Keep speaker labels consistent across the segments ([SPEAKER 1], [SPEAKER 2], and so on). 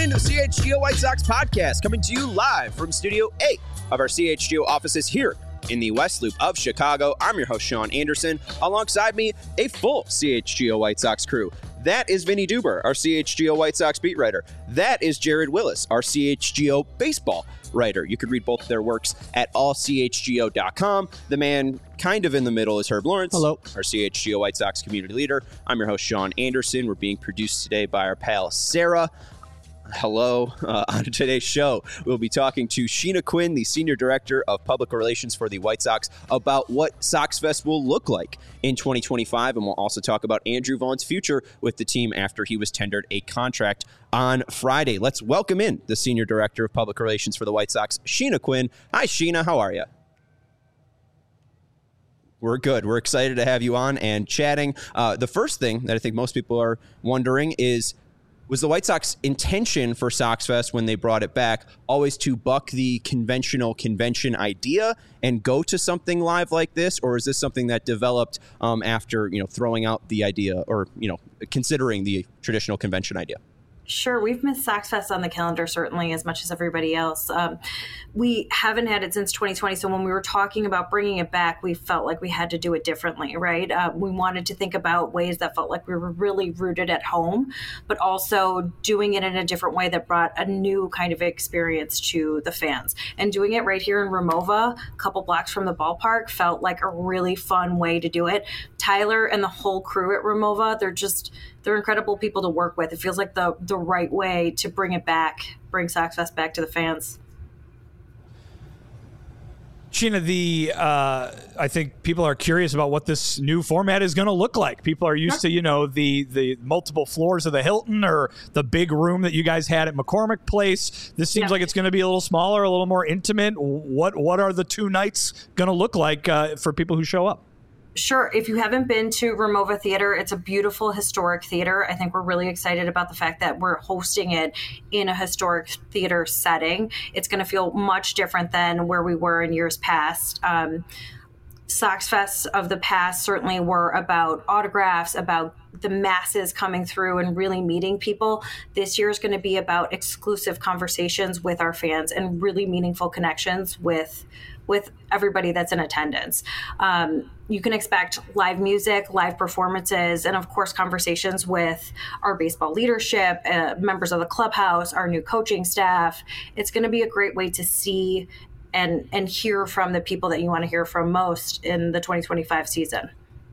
[SPEAKER 1] into CHGO White Sox podcast, coming to you live from Studio 8 of our CHGO offices here in the West Loop of Chicago. I'm your host, Sean Anderson. Alongside me, a full CHGO White Sox crew. That is Vinny Duber, our CHGO White Sox beat writer. That is Jared Willis, our CHGO baseball writer. You can read both of their works at allchgo.com. The man kind of in the middle is Herb Lawrence.
[SPEAKER 2] Hello.
[SPEAKER 1] Our CHGO White Sox community leader. I'm your host, Sean Anderson. We're being produced today by our pal, Sarah. Hello. On today's show, we'll be talking to Sheena Quinn, the Senior Director of Public Relations for the White Sox, about what Sox Fest will look like in 2025. And we'll also talk about Andrew Vaughn's future with the team after he was tendered a contract on Friday. Let's welcome in the Senior Director of Public Relations for the White Sox, Sheena Quinn. Hi, Sheena. How are you? We're good. We're excited to have you on and chatting. The first thing that I think most people are wondering is, was the White Sox intention for Sox Fest when they brought it back always to buck the conventional convention idea and go to something live like this? Or is this something that developed after, throwing out the idea or, considering the traditional convention idea?
[SPEAKER 3] Sure. We've missed Sox Fest on the calendar, certainly, as much as everybody else. We haven't had it since 2020. So when we were talking about bringing it back, we felt like we had to do it differently, right? We wanted to think about ways that felt like we were really rooted at home, but also doing it in a different way that brought a new kind of experience to the fans. And doing it right here in Rimowa, a couple blocks from the ballpark, felt like a really fun way to do it. Tyler and the whole crew at Rimowa, they're incredible people to work with. It feels like the right way to bring it back, bring Sox Fest back to the fans.
[SPEAKER 2] Sheena, I think people are curious about what this new format is going to look like. People are used to, the multiple floors of the Hilton or the big room that you guys had at McCormick Place. This seems like it's going to be a little smaller, a little more intimate. What are the two nights going to look like for people who show up?
[SPEAKER 3] Sure. If you haven't been to Rimowa Theater, it's a beautiful historic theater. I think we're really excited about the fact that we're hosting it in a historic theater setting. It's going to feel much different than where we were in years past. Sox Fests of the past certainly were about autographs, about the masses coming through and really meeting people. This year is going to be about exclusive conversations with our fans and really meaningful connections with everybody that's in attendance. You can expect live music, live performances, and of course, conversations with our baseball leadership, members of the clubhouse, our new coaching staff. It's going to be a great way to see and hear from the people that you want to hear from most in the 2025 season.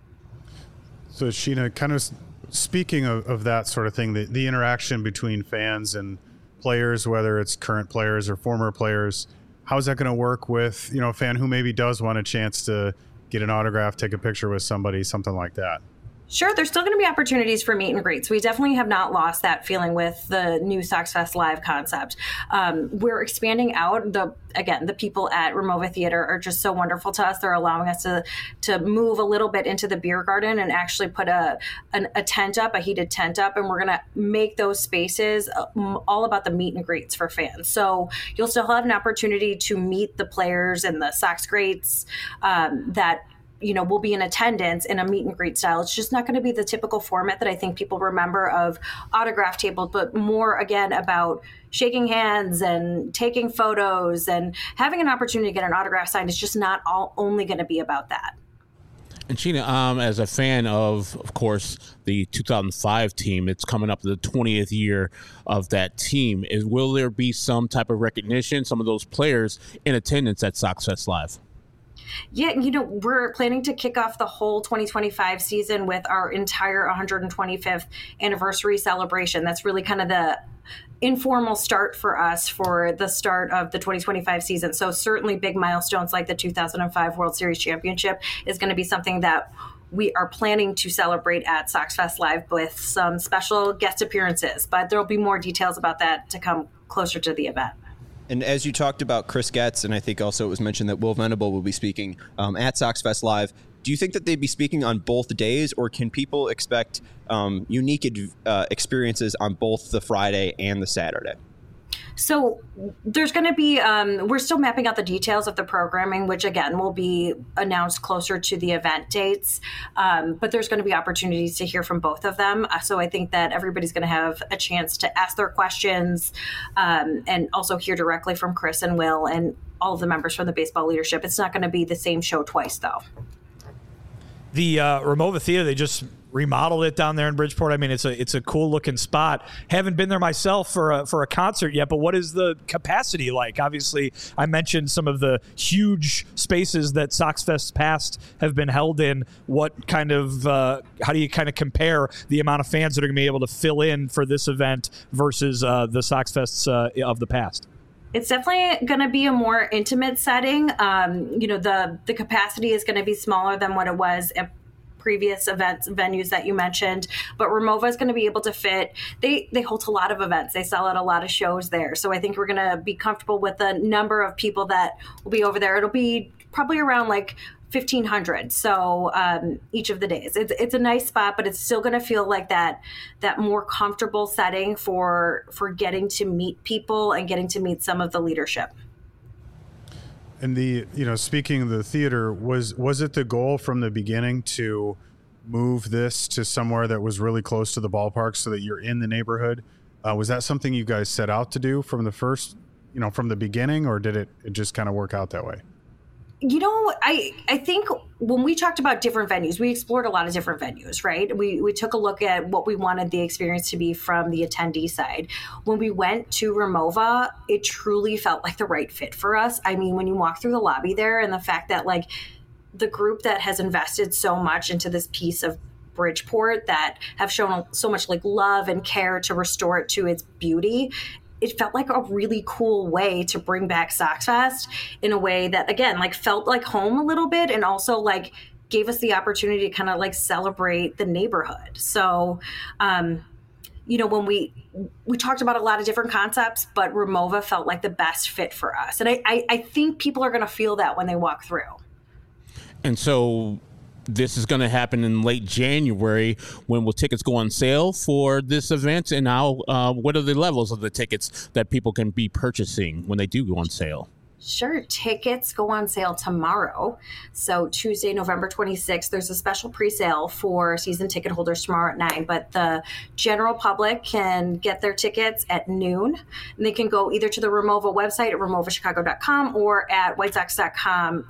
[SPEAKER 4] So Sheena, kind of speaking of that sort of thing, the interaction between fans and players, whether it's current players or former players, how is that going to work with, a fan who maybe does want a chance to get an autograph, take a picture with somebody, something like that?
[SPEAKER 3] Sure, there's still going to be opportunities for meet and greets. We definitely have not lost that feeling with the new Sox Fest Live concept. We're expanding out. The people at Rimowa Theater are just so wonderful to us. They're allowing us to move a little bit into the beer garden and actually put a tent up, a heated tent up, and we're going to make those spaces all about the meet and greets for fans. So you'll still have an opportunity to meet the players and the Sox greats that will be in attendance in a meet and greet style. It's just not going to be the typical format that I think people remember of autograph tables, but more, again, about shaking hands and taking photos and having an opportunity to get an autograph signed. Is just not only going to be about that.
[SPEAKER 5] And Sheena, as a fan of course, the 2005 team, it's coming up to the 20th year of that team. Will there be some type of recognition, some of those players in attendance at Sox Fest Live?
[SPEAKER 3] Yeah, we're planning to kick off the whole 2025 season with our entire 125th anniversary celebration. That's really kind of the informal start for us for the start of the 2025 season. So certainly big milestones like the 2005 World Series Championship is going to be something that we are planning to celebrate at Sox Fest Live with some special guest appearances. But there will be more details about that to come closer to the event.
[SPEAKER 1] And as you talked about Chris Getz, and I think also it was mentioned that Will Venable will be speaking at Sox Fest Live, do you think that they'd be speaking on both days, or can people expect unique experiences on both the Friday and the Saturday?
[SPEAKER 3] So there's going to be, we're still mapping out the details of the programming, which again will be announced closer to the event dates. But there's going to be opportunities to hear from both of them. So I think that everybody's going to have a chance to ask their questions and also hear directly from Chris and Will and all of the members from the baseball leadership. It's not going to be the same show twice, though.
[SPEAKER 2] The Ramova Theater, they just remodeled it down there in Bridgeport. I mean, it's a cool looking spot. Haven't been there myself for a concert yet, but what is the capacity like? Obviously, I mentioned some of the huge spaces that SoxFest past have been held in. What kind of how do you kind of compare the amount of fans that are going to be able to fill in for this event versus the SoxFests of the past?
[SPEAKER 3] It's definitely going to be a more intimate setting. The capacity is going to be smaller than what it was at previous events venues that you mentioned, but Ramova is going to be able to fit. They host a lot of events. They sell out a lot of shows there. So I think we're going to be comfortable with the number of people that will be over there. It'll be probably around like 1,500. So each of the days, it's a nice spot, but it's still going to feel like that more comfortable setting for getting to meet people and getting to meet some of the leadership.
[SPEAKER 4] And speaking of the theater, was it the goal from the beginning to move this to somewhere that was really close to the ballpark so that you're in the neighborhood? Was that something you guys set out to do from the first, from the beginning, or did it just kind of work out that way?
[SPEAKER 3] I think when we talked about different venues, we explored a lot of different venues, right? We took a look at what we wanted the experience to be from the attendee side. When we went to Ramova, it truly felt like the right fit for us. I mean, when you walk through the lobby there and the fact that like the group that has invested so much into this piece of Bridgeport that have shown so much like love and care to restore it to its beauty, it felt like a really cool way to bring back SoxFest in a way that, again, like felt like home a little bit and also like gave us the opportunity to kind of like celebrate the neighborhood. So, when we talked about a lot of different concepts, but Ramova felt like the best fit for us. And I think people are going to feel that when they walk through.
[SPEAKER 5] And so this is going to happen in late January. When will tickets go on sale for this event? And how? What are the levels of the tickets that people can be purchasing when they do go on sale?
[SPEAKER 3] Sure. Tickets go on sale tomorrow. So Tuesday, November 26th, there's a special pre-sale for season ticket holders tomorrow at 9. But the general public can get their tickets at noon. And they can go either to the Ramova website at ramovachicago.com or at whitesox.com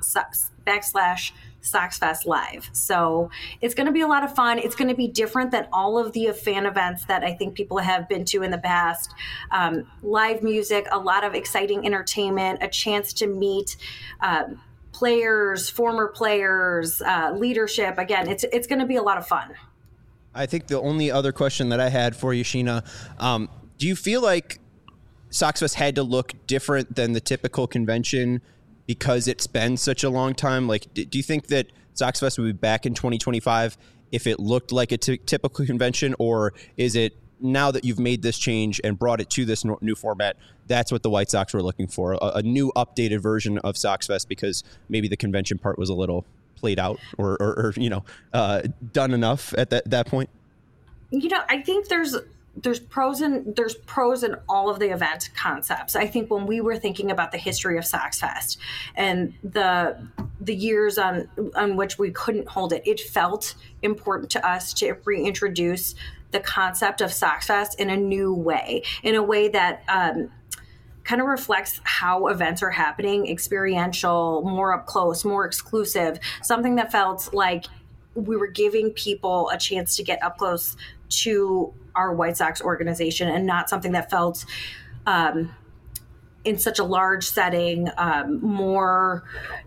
[SPEAKER 3] /SoxFest Live. So it's going to be a lot of fun. It's going to be different than all of the fan events that I think people have been to in the past. Live music, a lot of exciting entertainment, a chance to meet players, former players, leadership. Again, it's going to be a lot of fun.
[SPEAKER 1] I think the only other question that I had for you, Sheena, do you feel like SoxFest had to look different than the typical convention because it's been such a long time? Like, do you think that SoxFest would be back in 2025 if it looked like a typical convention? Or is it, now that you've made this change and brought it to this new format, that's what the White Sox were looking for, a new updated version of SoxFest because maybe the convention part was a little played out or done enough at that point?
[SPEAKER 3] I think there's pros in all of the event concepts. I think when we were thinking about the history of SoxFest and the years on which we couldn't hold it, it felt important to us to reintroduce the concept of SoxFest in a new way, in a way that kind of reflects how events are happening, experiential, more up close, more exclusive, something that felt like we were giving people a chance to get up close to our White Sox organization and not something that felt in such a large setting, more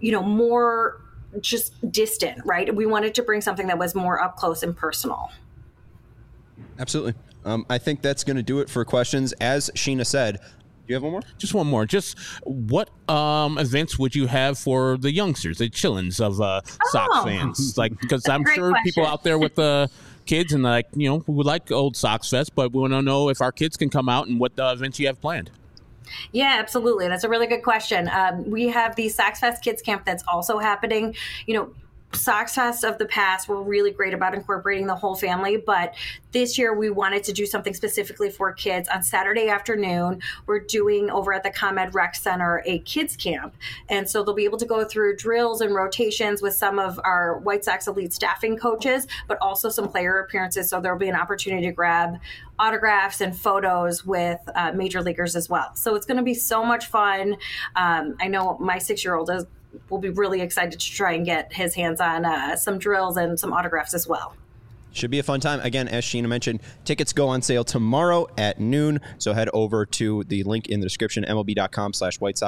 [SPEAKER 3] just distant, right? We wanted to bring something that was more up close and personal.
[SPEAKER 1] Absolutely. I think that's going to do it for questions. As Sheena said, do you have one more?
[SPEAKER 5] Just one more. Just what events would you have for the youngsters, the chillins of Sox fans? Like, because I'm sure
[SPEAKER 3] question.
[SPEAKER 5] People out there with the kids and we would like old SoxFest, but we want to know if our kids can come out and what events you have planned.
[SPEAKER 3] Yeah, absolutely. That's a really good question. We have the SoxFest Kids Camp that's also happening. Sox Fest of the past were really great about incorporating the whole family, but this year we wanted to do something specifically for kids. On Saturday afternoon, we're doing over at the ComEd Rec Center a kids camp. And so they'll be able to go through drills and rotations with some of our White Sox elite staffing coaches, but also some player appearances. So there'll be an opportunity to grab autographs and photos with major leaguers as well. So it's going to be so much fun. I know my 6-year-old will be really excited to try and get his hands on some drills and some autographs as well.
[SPEAKER 1] Should be a fun time. Again, as Sheena mentioned, tickets go on sale tomorrow at noon. So head over to the link in the description, MLB.com/White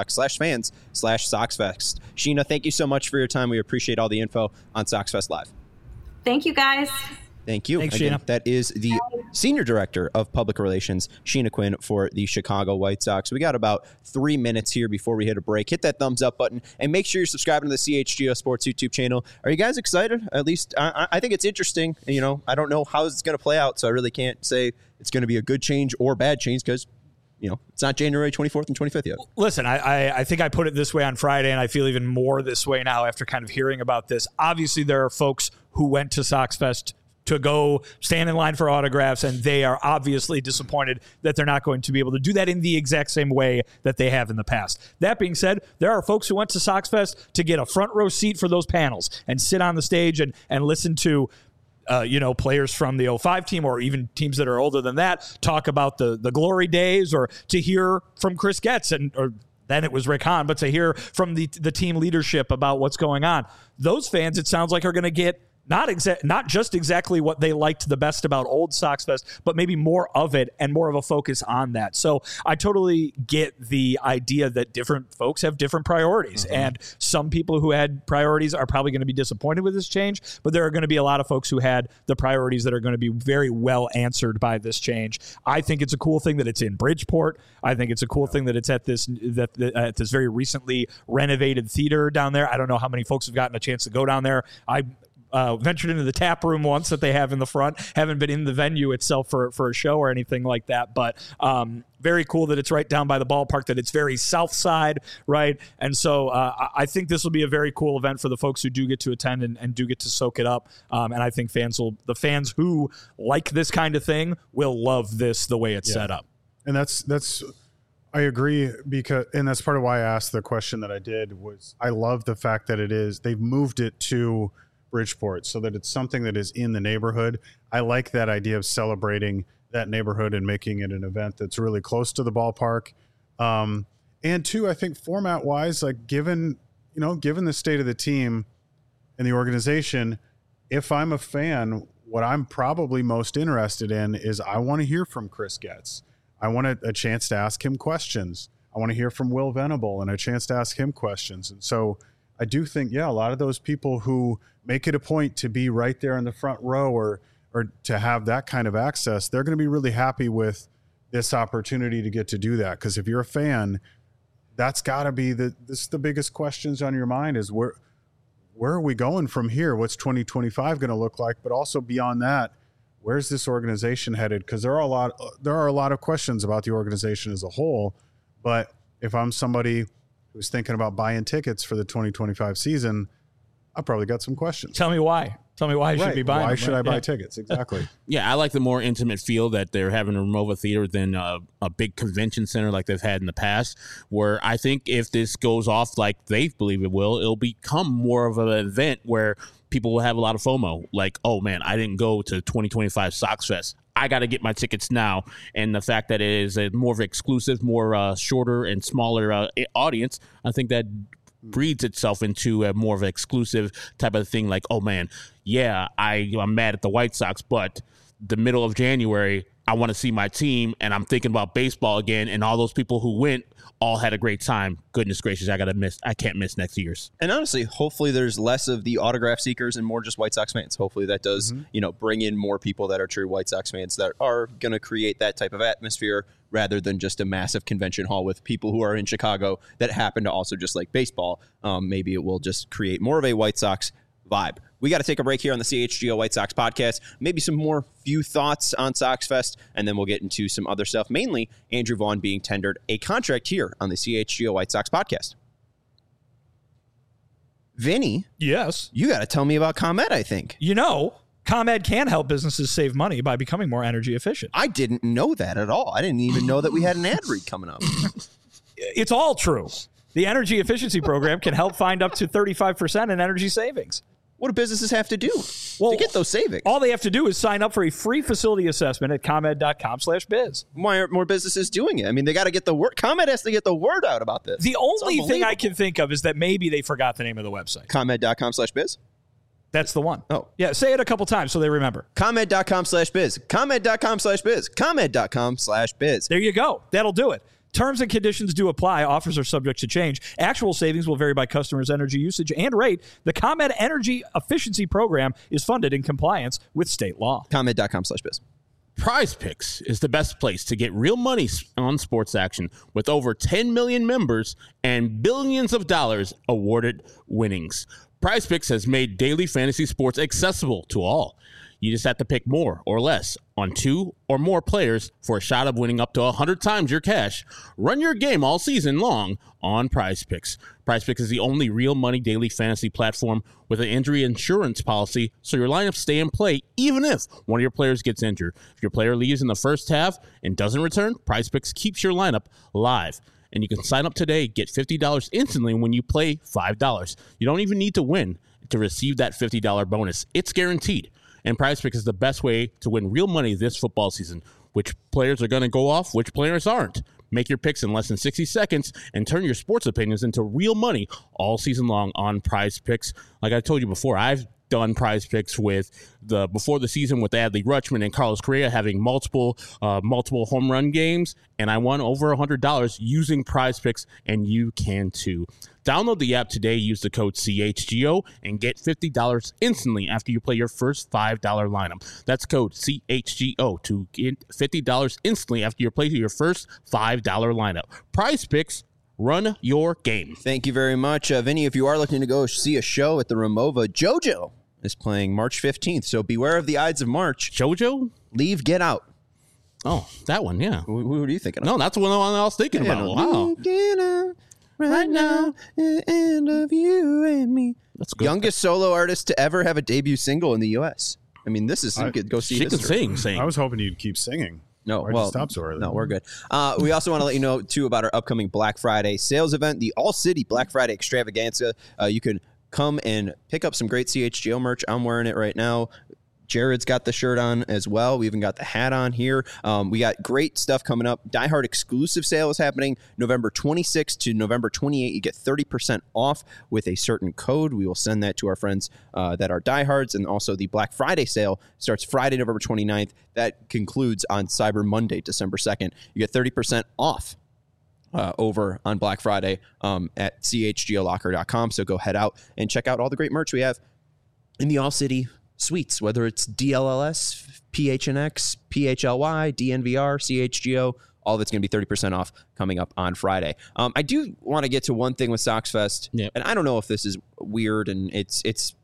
[SPEAKER 1] Sox/fans/SoxFest. Sheena, thank you so much for your time. We appreciate all the info on SoxFest Live.
[SPEAKER 3] Thank you, guys.
[SPEAKER 1] Thank you.
[SPEAKER 2] Thanks,
[SPEAKER 1] Again,
[SPEAKER 2] Sheena.
[SPEAKER 1] that is the Senior Director of Public Relations, Sheena Quinn, for the Chicago White Sox. We got about 3 minutes here before we hit a break. Hit that thumbs up button and make sure you're subscribing to the CHGO Sports YouTube channel. Are you guys excited? At least I think it's interesting. You know, I don't know how it's going to play out, so I really can't say it's going to be a good change or bad change because, you know, it's not January 24th and 25th yet.
[SPEAKER 2] Listen, I think I put it this way on Friday, and I feel even more this way now after kind of hearing about this. Obviously, there are folks who went to SoxFest to go stand in line for autographs, and they are obviously disappointed that they're not going to be able to do that in the exact same way that they have in the past. That being said, there are folks who went to SoxFest to get a front row seat for those panels and sit on the stage and listen to players from the 05 team or even teams that are older than that talk about the glory days, or to hear from Chris Getz or then it was Rick Hahn, but to hear from the team leadership about what's going on. Those fans, it sounds like, are going to get not just exactly what they liked the best about old SoxFest, but maybe more of it and more of a focus on that. So I totally get the idea that different folks have different priorities, and some people who had priorities are probably going to be disappointed with this change, but there are going to be a lot of folks who had the priorities that are going to be very well answered by this change. I think it's a cool thing that it's in Bridgeport. I think it's a cool thing that it's at this very recently renovated theater down there. I don't know how many folks have gotten a chance to go down there. I ventured into the tap room once that they have in the front. Haven't been in the venue itself for a show or anything like that, but very cool that it's right down by the ballpark, that it's very south side, right? And so I think this will be a very cool event for the folks who do get to attend and do get to soak it up. And I think the fans who like this kind of thing will love this the way it's set up.
[SPEAKER 4] And that's I agree, and that's part of why I asked the question that I did. Was I love the fact that they've moved it to Bridgeport so that it's something that is in the neighborhood. I like that idea of celebrating that neighborhood and making it an event that's really close to the ballpark. And two, I think format wise, like given the state of the team and the organization, if I'm a fan, what I'm probably most interested in is I want to hear from Chris Getz. I want a chance to ask him questions. I want to hear from Will Venable and a chance to ask him questions. And so I do think, a lot of those people who make it a point to be right there in the front row or to have that kind of access, they're going to be really happy with this opportunity to get to do that. Because if you're a fan, that's got to be the biggest questions on your mind is where are we going from here? What's 2025 going to look like? But also beyond that, where's this organization headed? Because there are a lot of questions about the organization as a whole. But if I'm somebody who's thinking about buying tickets for the 2025 season, I probably got some questions.
[SPEAKER 2] Tell me why. Tell me why you should be buying.
[SPEAKER 4] Why should I buy tickets? Exactly.
[SPEAKER 5] Yeah, I like the more intimate feel that they're having in Rimowa Theater than a big convention center like they've had in the past, where I think if this goes off like they believe it will, it'll become more of an event where people will have a lot of FOMO. Like, oh, man, I didn't go to 2025 Sox Fest. I got to get my tickets now. And the fact that it is a more of an exclusive, more shorter and smaller audience, I think that breeds itself into a more of an exclusive type of thing. Like, oh, man, yeah, I'm mad at the White Sox, but the middle of January, I want to see my team, and I'm thinking about baseball again, and all those people who went all had a great time. Goodness gracious, I can't miss next year's.
[SPEAKER 1] And honestly, hopefully there's less of the autograph seekers and more just White Sox fans. Hopefully that does, bring in more people that are true White Sox fans that are going to create that type of atmosphere rather than just a massive convention hall with people who are in Chicago that happen to also just like baseball. Maybe it will just create more of a White Sox vibe. We got to take a break here on the CHGO White Sox podcast. Maybe some more few thoughts on Sox Fest, and then we'll get into some other stuff, mainly Andrew Vaughn being tendered a contract here on the CHGO White Sox podcast. Vinny,
[SPEAKER 2] Yes.
[SPEAKER 1] you got to tell me about ComEd, I think.
[SPEAKER 2] ComEd can help businesses save money by becoming more energy efficient.
[SPEAKER 1] I didn't know that at all. I didn't even know that we had an ad read coming up.
[SPEAKER 2] It's all true. The energy efficiency program can help find up to 35% in energy savings.
[SPEAKER 1] What do businesses have to do to get those savings?
[SPEAKER 2] All they have to do is sign up for a free facility assessment at ComEd.com/biz.
[SPEAKER 1] Why aren't more businesses doing it? I mean, they got to get the word. ComEd has to get the word out about this.
[SPEAKER 2] The only thing I can think of is that maybe they forgot the name of the website.
[SPEAKER 1] ComEd.com/biz?
[SPEAKER 2] That's the one.
[SPEAKER 1] Oh.
[SPEAKER 2] Yeah, say it a couple times so they remember.
[SPEAKER 1] ComEd.com/biz. ComEd.com/biz. ComEd.com/biz.
[SPEAKER 2] There you go. That'll do it. Terms and conditions do apply. Offers are subject to change. Actual savings will vary by customers' energy usage and rate. The ComEd Energy Efficiency Program is funded in compliance with state law.
[SPEAKER 1] ComEd.com/biz.
[SPEAKER 5] Prize Picks is the best place to get real money on sports action with over 10 million members and billions of dollars awarded winnings. Prize Picks has made daily fantasy sports accessible to all. You just have to pick more or less on 2 or more players for a shot of winning up to 100 times your cash. Run your game all season long on Prize Picks. Prize Picks is the only real money daily fantasy platform with an injury insurance policy, so your lineups stay in play even if one of your players gets injured. If your player leaves in the first half and doesn't return, Prize Picks keeps your lineup live. And you can sign up today, get $50 instantly when you play $5. You don't even need to win to receive that $50 bonus. It's guaranteed. And Prize Picks is the best way to win real money this football season. Which players are going to go off, which players aren't. Make your picks in less than 60 seconds and turn your sports opinions into real money all season long on Prize Picks. Like I told you before, I've done Prize Picks before the season with Adley Rutschman and Carlos Correa having multiple home run games, and I won over $100 using Prize Picks, and you can too. Download the app today, use the code CHGO, and get $50 instantly after you play your first $5 lineup. That's code CHGO to get $50 instantly after you play your first $5 lineup. Prize Picks, run your game.
[SPEAKER 1] Thank you very much. Vinny, if you are looking to go see a show at the Ramova, JoJo is playing March 15th, so beware of the Ides of March.
[SPEAKER 5] JoJo?
[SPEAKER 1] Leave, Get Out.
[SPEAKER 5] Oh, that one, yeah.
[SPEAKER 1] Who are you thinking of?
[SPEAKER 5] No, that's the one I was thinking about. Wow.
[SPEAKER 1] Get out right now, the end of you and me.
[SPEAKER 5] That's good.
[SPEAKER 1] Youngest solo artist to ever have a debut single in the U.S. I mean, this is, you could go see
[SPEAKER 5] She
[SPEAKER 1] history.
[SPEAKER 5] can sing.
[SPEAKER 4] I was hoping you'd keep singing.
[SPEAKER 1] No,
[SPEAKER 4] Why'd you stop so early?
[SPEAKER 1] No, we're good. We also want to let you know, too, about our upcoming Black Friday sales event, the All City Black Friday Extravaganza. You can come and pick up some great CHGO merch. I'm wearing it right now. Jared's got the shirt on as well. We even got the hat on here. We got great stuff coming up. Die Hard exclusive sale is happening November 26th to November 28th. You get 30% off with a certain code. We will send that to our friends that are Die Hards. And also the Black Friday sale starts Friday, November 29th. That concludes on Cyber Monday, December 2nd. You get 30% off over on Black Friday at chgolocker.com. So go head out and check out all the great merch we have in the All City suites, whether it's DLLS, PHNX, PHLY, DNVR, CHGO, all of it's going to be 30% off coming up on Friday. I do want to get to one thing with Sox Fest, and I don't know if this is weird, and it's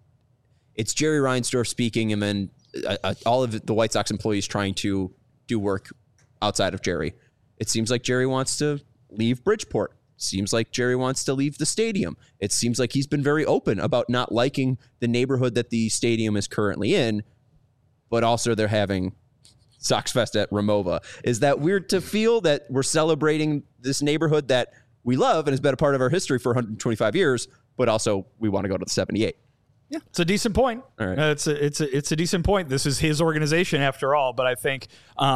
[SPEAKER 1] Jerry Reinsdorf speaking, and then all of the White Sox employees trying to do work outside of Jerry. It seems like Jerry wants to leave Bridgeport. Seems like Jerry wants to leave the stadium. It seems like he's been very open about not liking the neighborhood that the stadium is currently in, but also they're having Sox Fest at Ramova. Is that weird to feel that we're celebrating this neighborhood that we love and has been a part of our history for 125 years, but also we want to go to the 78?
[SPEAKER 2] Yeah, it's a decent point.
[SPEAKER 1] All right.
[SPEAKER 2] It's a decent point. This is his organization after all, but I think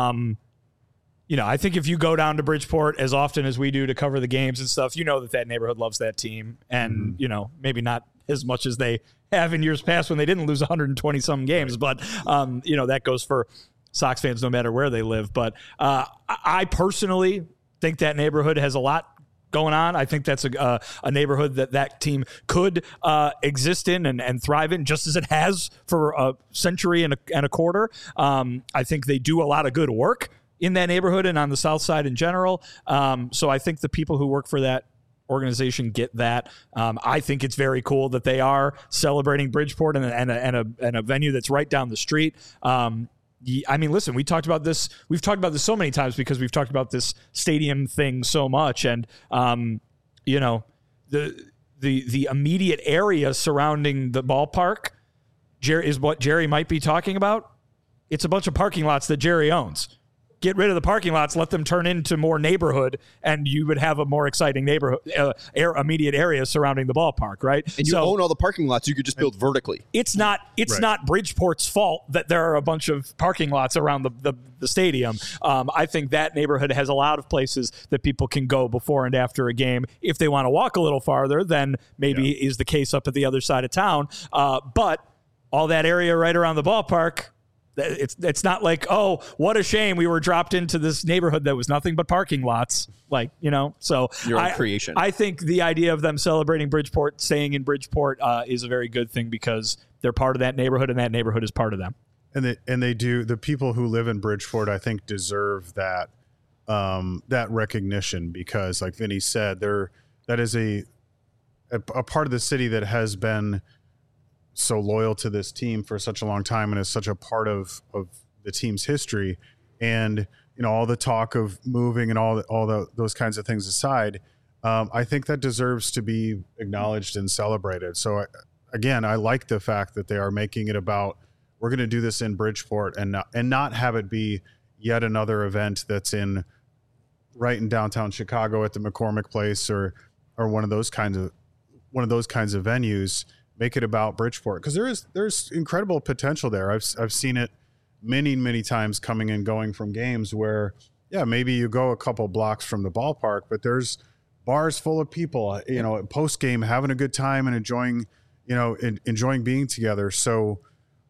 [SPEAKER 2] I think if you go down to Bridgeport as often as we do to cover the games and stuff, you know that neighborhood loves that team. And, maybe not as much as they have in years past when they didn't lose 120-some games. But, that goes for Sox fans no matter where they live. But I personally think that neighborhood has a lot going on. I think that's a neighborhood that team could exist in and thrive in, just as it has for a century and a quarter. I think they do a lot of good work in that neighborhood and on the South Side in general. So I think the people who work for that organization get that. I think it's very cool that they are celebrating Bridgeport and a venue that's right down the street. I mean, listen, we talked about this. We've talked about this so many times because we've talked about this stadium thing so much. And, the the immediate area surrounding the ballpark is what Jerry might be talking about. It's a bunch of parking lots that Jerry owns. Get rid of the parking lots, let them turn into more neighborhood, and you would have a more exciting neighborhood, immediate area surrounding the ballpark, right?
[SPEAKER 1] And you own all the parking lots, you could just build vertically.
[SPEAKER 2] It's not Bridgeport's fault that there are a bunch of parking lots around the stadium. I think that neighborhood has a lot of places that people can go before and after a game. If they want to walk a little farther, then maybe is the case up at the other side of town. But all that area right around the ballpark, it's not like, oh, what a shame we were dropped into this neighborhood that was nothing but parking lots. Like, so
[SPEAKER 1] your own creation.
[SPEAKER 2] I think the idea of them celebrating Bridgeport, staying in Bridgeport is a very good thing because they're part of that neighborhood and that neighborhood is part of them.
[SPEAKER 4] And they do. The people who live in Bridgeport, I think, deserve that recognition because, like Vinny said, that is a part of the city that has been so loyal to this team for such a long time and is such a part of the team's history. And all the talk of moving and all those kinds of things aside, I think that deserves to be acknowledged and celebrated. So I like the fact that they are making it about, we're going to do this in Bridgeport and not have it be yet another event that's right in downtown Chicago at the McCormick Place or one of those kinds of venues. Make it about Bridgeport because there's incredible potential there. I've seen it many times coming and going from games where maybe you go a couple blocks from the ballpark, but there's bars full of people, post game having a good time and enjoying being together. So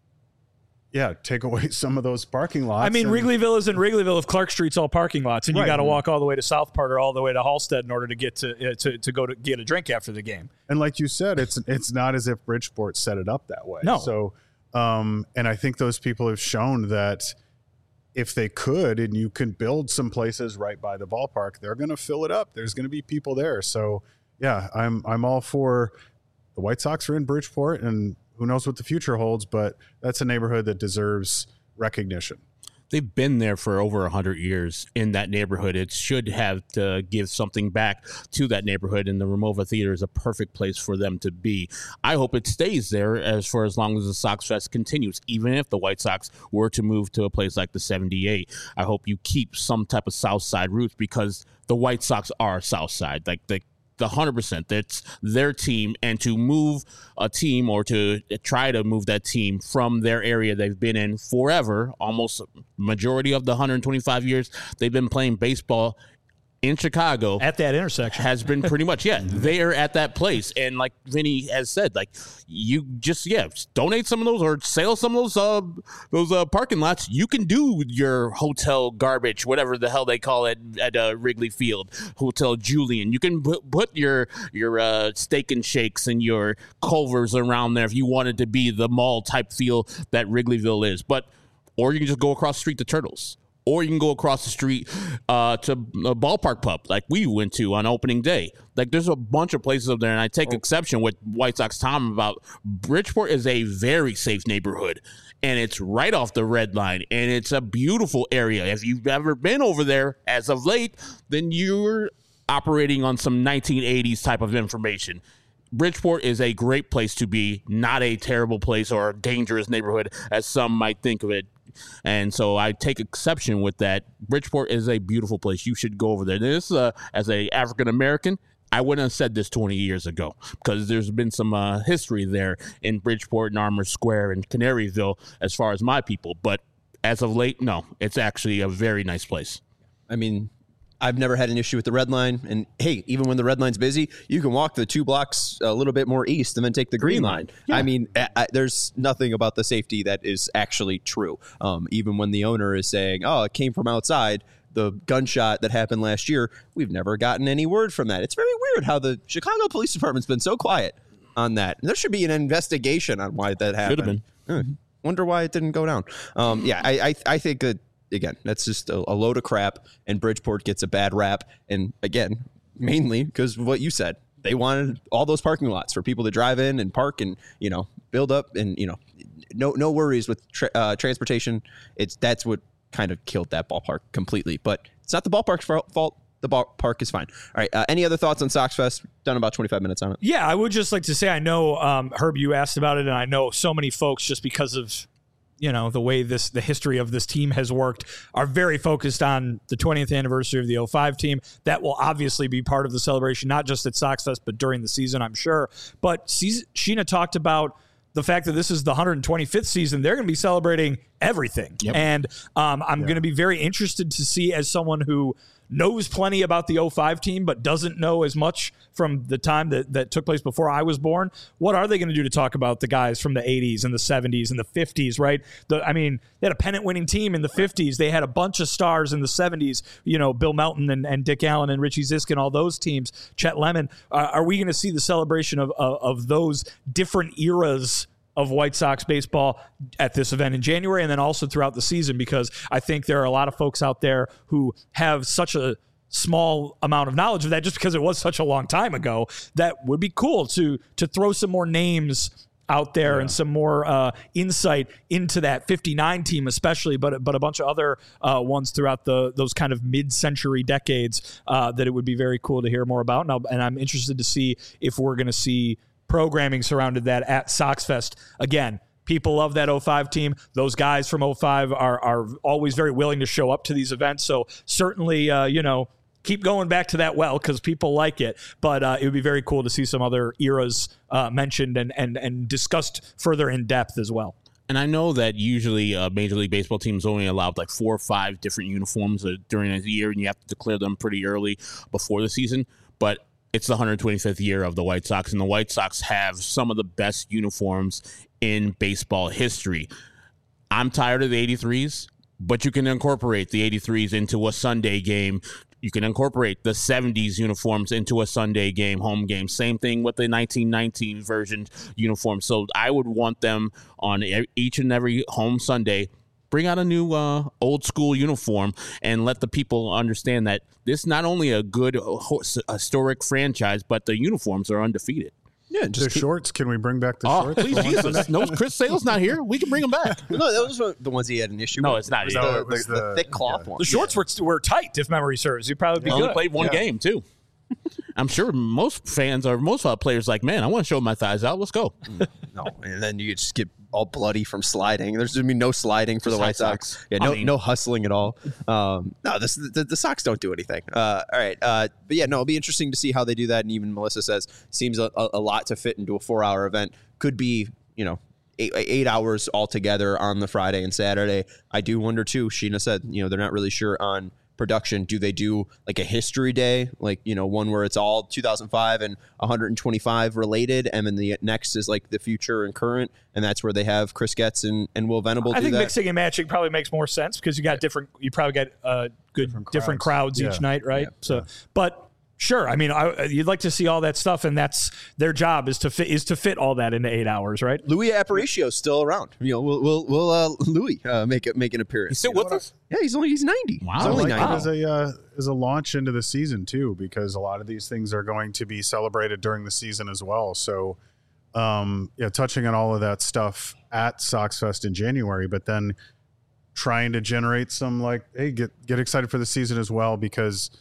[SPEAKER 4] take away some of those parking lots.
[SPEAKER 2] I mean, Wrigleyville isn't Wrigleyville if Clark Street's all parking lots, and you got to walk all the way to Southport or all the way to Halstead in order to get to go to get a drink after the game.
[SPEAKER 4] And like you said, it's not as if Bridgeport set it up that way.
[SPEAKER 2] No.
[SPEAKER 4] So, and I think those people have shown that if they could, and you can build some places right by the ballpark, they're going to fill it up. There's going to be people there. So, I'm all for the White Sox are in Bridgeport, and who knows what the future holds, but that's a neighborhood that deserves recognition.
[SPEAKER 5] They've been there for over 100 years in that neighborhood. It should have to give something back to that neighborhood, and the Ramova Theater is a perfect place for them to be. I hope it stays there for as long as the Sox Fest continues, even if the White Sox were to move to a place like the 78. I hope you keep some type of South Side roots because the White Sox are South Side. Like the 100%, that's their team, and to move a team or to try to move that team from their area they've been in forever, almost majority of the 125 years they've been playing baseball in Chicago
[SPEAKER 2] at that intersection
[SPEAKER 5] has been pretty much they're at that place. And like Vinny has said, like you just donate some of those or sell some of those parking lots. You can do your hotel garbage, whatever the hell they call it at Wrigley Field, Hotel Julian. You can put your steak and shakes and your Culvers around there if you want it to be the mall type feel that Wrigleyville is. Or you can just go across the street to Turtles. Or you can go across the street to a ballpark pub like we went to on opening day. Like there's a bunch of places up there, and I take exception with White Sox Tom about Bridgeport is a very safe neighborhood, and it's right off the red line, and it's a beautiful area. If you've ever been over there as of late, then you're operating on some 1980s type of information. Bridgeport is a great place to be, not a terrible place or a dangerous neighborhood as some might think of it. And so I take exception with that. Bridgeport is a beautiful place. You should go over there. This, as a African American, I wouldn't have said this 20 years ago because there's been some history there in Bridgeport and Armour Square and Canaryville as far as my people. But as of late, no, it's actually a very nice place.
[SPEAKER 1] I mean, I've never had an issue with the Red Line. And hey, even when the Red Line's busy, you can walk the 2 blocks a little bit more east and then take the Green Line. Yeah. I mean, there's nothing about the safety that is actually true. Even when the owner is saying, oh, it came from outside, the gunshot that happened last year, we've never gotten any word from that. It's very weird how the Chicago Police Department's been so quiet on that. And there should be an investigation on why that happened.
[SPEAKER 5] Should have been.
[SPEAKER 1] Wonder why it didn't go down. I think that, again, that's just a load of crap, and Bridgeport gets a bad rap. And again, mainly because of what you said. They wanted all those parking lots for people to drive in and park and, build up and, no worries with transportation. That's what kind of killed that ballpark completely. But it's not the ballpark's fault. the ballpark is fine. All right. Any other thoughts on Sox Fest? Done about 25 minutes on it.
[SPEAKER 2] Yeah, I would just like to say, I know, Herb, you asked about it, and I know so many folks, just because of the way the history of this team has worked, are very focused on the 20th anniversary of the 05 team. That will obviously be part of the celebration, not just at Sox Fest, but during the season, I'm sure. But Sheena talked about the fact that this is the 125th season. They're going to be celebrating everything. Yep. And I'm going to be very interested to see, as someone who knows plenty about the 05 team, but doesn't know as much from the time that took place before I was born. What are they going to do to talk about the guys from the 80s and the 70s and the 50s, right? They had a pennant-winning team in the 50s. They had a bunch of stars in the 70s, Bill Melton and Dick Allen and Richie Zisk and all those teams, Chet Lemon. Are we going to see the celebration of those different eras of White Sox baseball at this event in January, and then also throughout the season? Because I think there are a lot of folks out there who have such a small amount of knowledge of that, just because it was such a long time ago. That would be cool to throw some more names out there and some more insight into that 59 team especially, but a bunch of other ones throughout those kind of mid-century decades that it would be very cool to hear more about. And I'm interested to see if we're going to see programming surrounded that at Sox Fest. Again, people love that 05 team. Those guys from 05 are always very willing to show up to these events. So certainly, keep going back to that because people like it. But it would be very cool to see some other eras mentioned and discussed further in depth as well.
[SPEAKER 5] And I know that usually Major League Baseball teams only allow like 4 or 5 different uniforms during a year, and you have to declare them pretty early before the season. But it's the 125th year of the White Sox, and the White Sox have some of the best uniforms in baseball history. I'm tired of the 83s, but you can incorporate the 83s into a Sunday game. You can incorporate the 70s uniforms into a Sunday game, home game. Same thing with the 1919 version uniform. So I would want them on each and every home Sunday. Bring out a new old school uniform and let the people understand that this is not only a good historic franchise, but the uniforms are undefeated.
[SPEAKER 4] Yeah, just shorts. Can we bring back the shorts?
[SPEAKER 5] Please, Jesus. No, Chris Sale's not here. We can bring them back.
[SPEAKER 1] No, those were the ones he had an issue with.
[SPEAKER 5] No, it's not.
[SPEAKER 1] It was the thick cloth one.
[SPEAKER 2] The shorts were tight, if memory serves. You'd probably be good.
[SPEAKER 5] Only played one game, too. I'm sure most fans or most players like, man, I want to show my thighs out. Let's go.
[SPEAKER 1] No, and then you just get all bloody from sliding. There's going to be no sliding for the White Sox. Yeah, no hustling at all. No, the Sox don't do anything. All right. But yeah, no, it'll be interesting to see how they do that. And even Melissa says, seems a lot to fit into a 4-hour event. Could be, 8 hours altogether on the Friday and Saturday. I do wonder too, Sheena said, they're not really sure on production. Do they do like a history day, like one where it's all 2005 and 125 related, and then the next is like the future and current, and that's where they have Chris Getz and Will Venable
[SPEAKER 2] I think mixing and matching probably makes more sense because you probably get different crowds each night, right? But sure, I mean, you'd like to see all that stuff, and that's their job is to fit all that into 8 hours, right?
[SPEAKER 1] Louis Aparicio is still around. We'll Louis make an appearance.
[SPEAKER 5] He's still with us?
[SPEAKER 1] Yeah, he's 90.
[SPEAKER 5] Wow,
[SPEAKER 1] he's only 90.
[SPEAKER 4] It as a launch into the season too, because a lot of these things are going to be celebrated during the season as well. So, touching on all of that stuff at Sox Fest in January, but then trying to generate some get excited for the season as well, because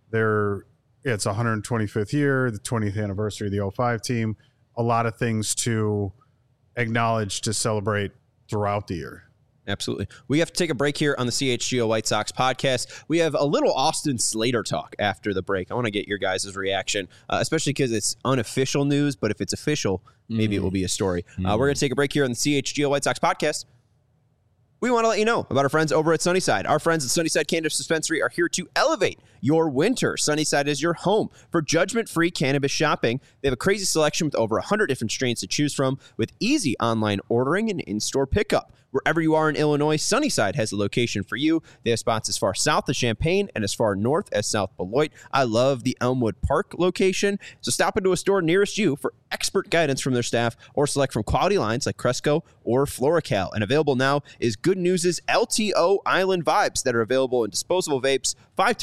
[SPEAKER 4] it's 125th year, the 20th anniversary of the 05 team, a lot of things to acknowledge, to celebrate throughout the year.
[SPEAKER 1] Absolutely. We have to take a break here on the CHGO White Sox podcast. We have a little Austin Slater talk after the break. I want to get your guys' reaction, especially because it's unofficial news, but if it's official, maybe it will be a story. We're going to take a break here on the CHGO White Sox podcast. We want to let you know about our friends over at Sunnyside. Our friends at Sunnyside Cannabis Dispensary are here to elevate your winter. Sunnyside is your home for judgment-free cannabis shopping. They have a crazy selection with over 100 different strains to choose from, with easy online ordering and in-store pickup. Wherever you are in Illinois, Sunnyside has a location for you. They have spots as far south as Champaign and as far north as South Beloit. I love the Elmwood Park location. So stop into a store nearest you for expert guidance from their staff, or select from quality lines like Cresco or Floracal. And available now is Good News' LTO Island Vibes that are available in disposable vapes, 510 carts,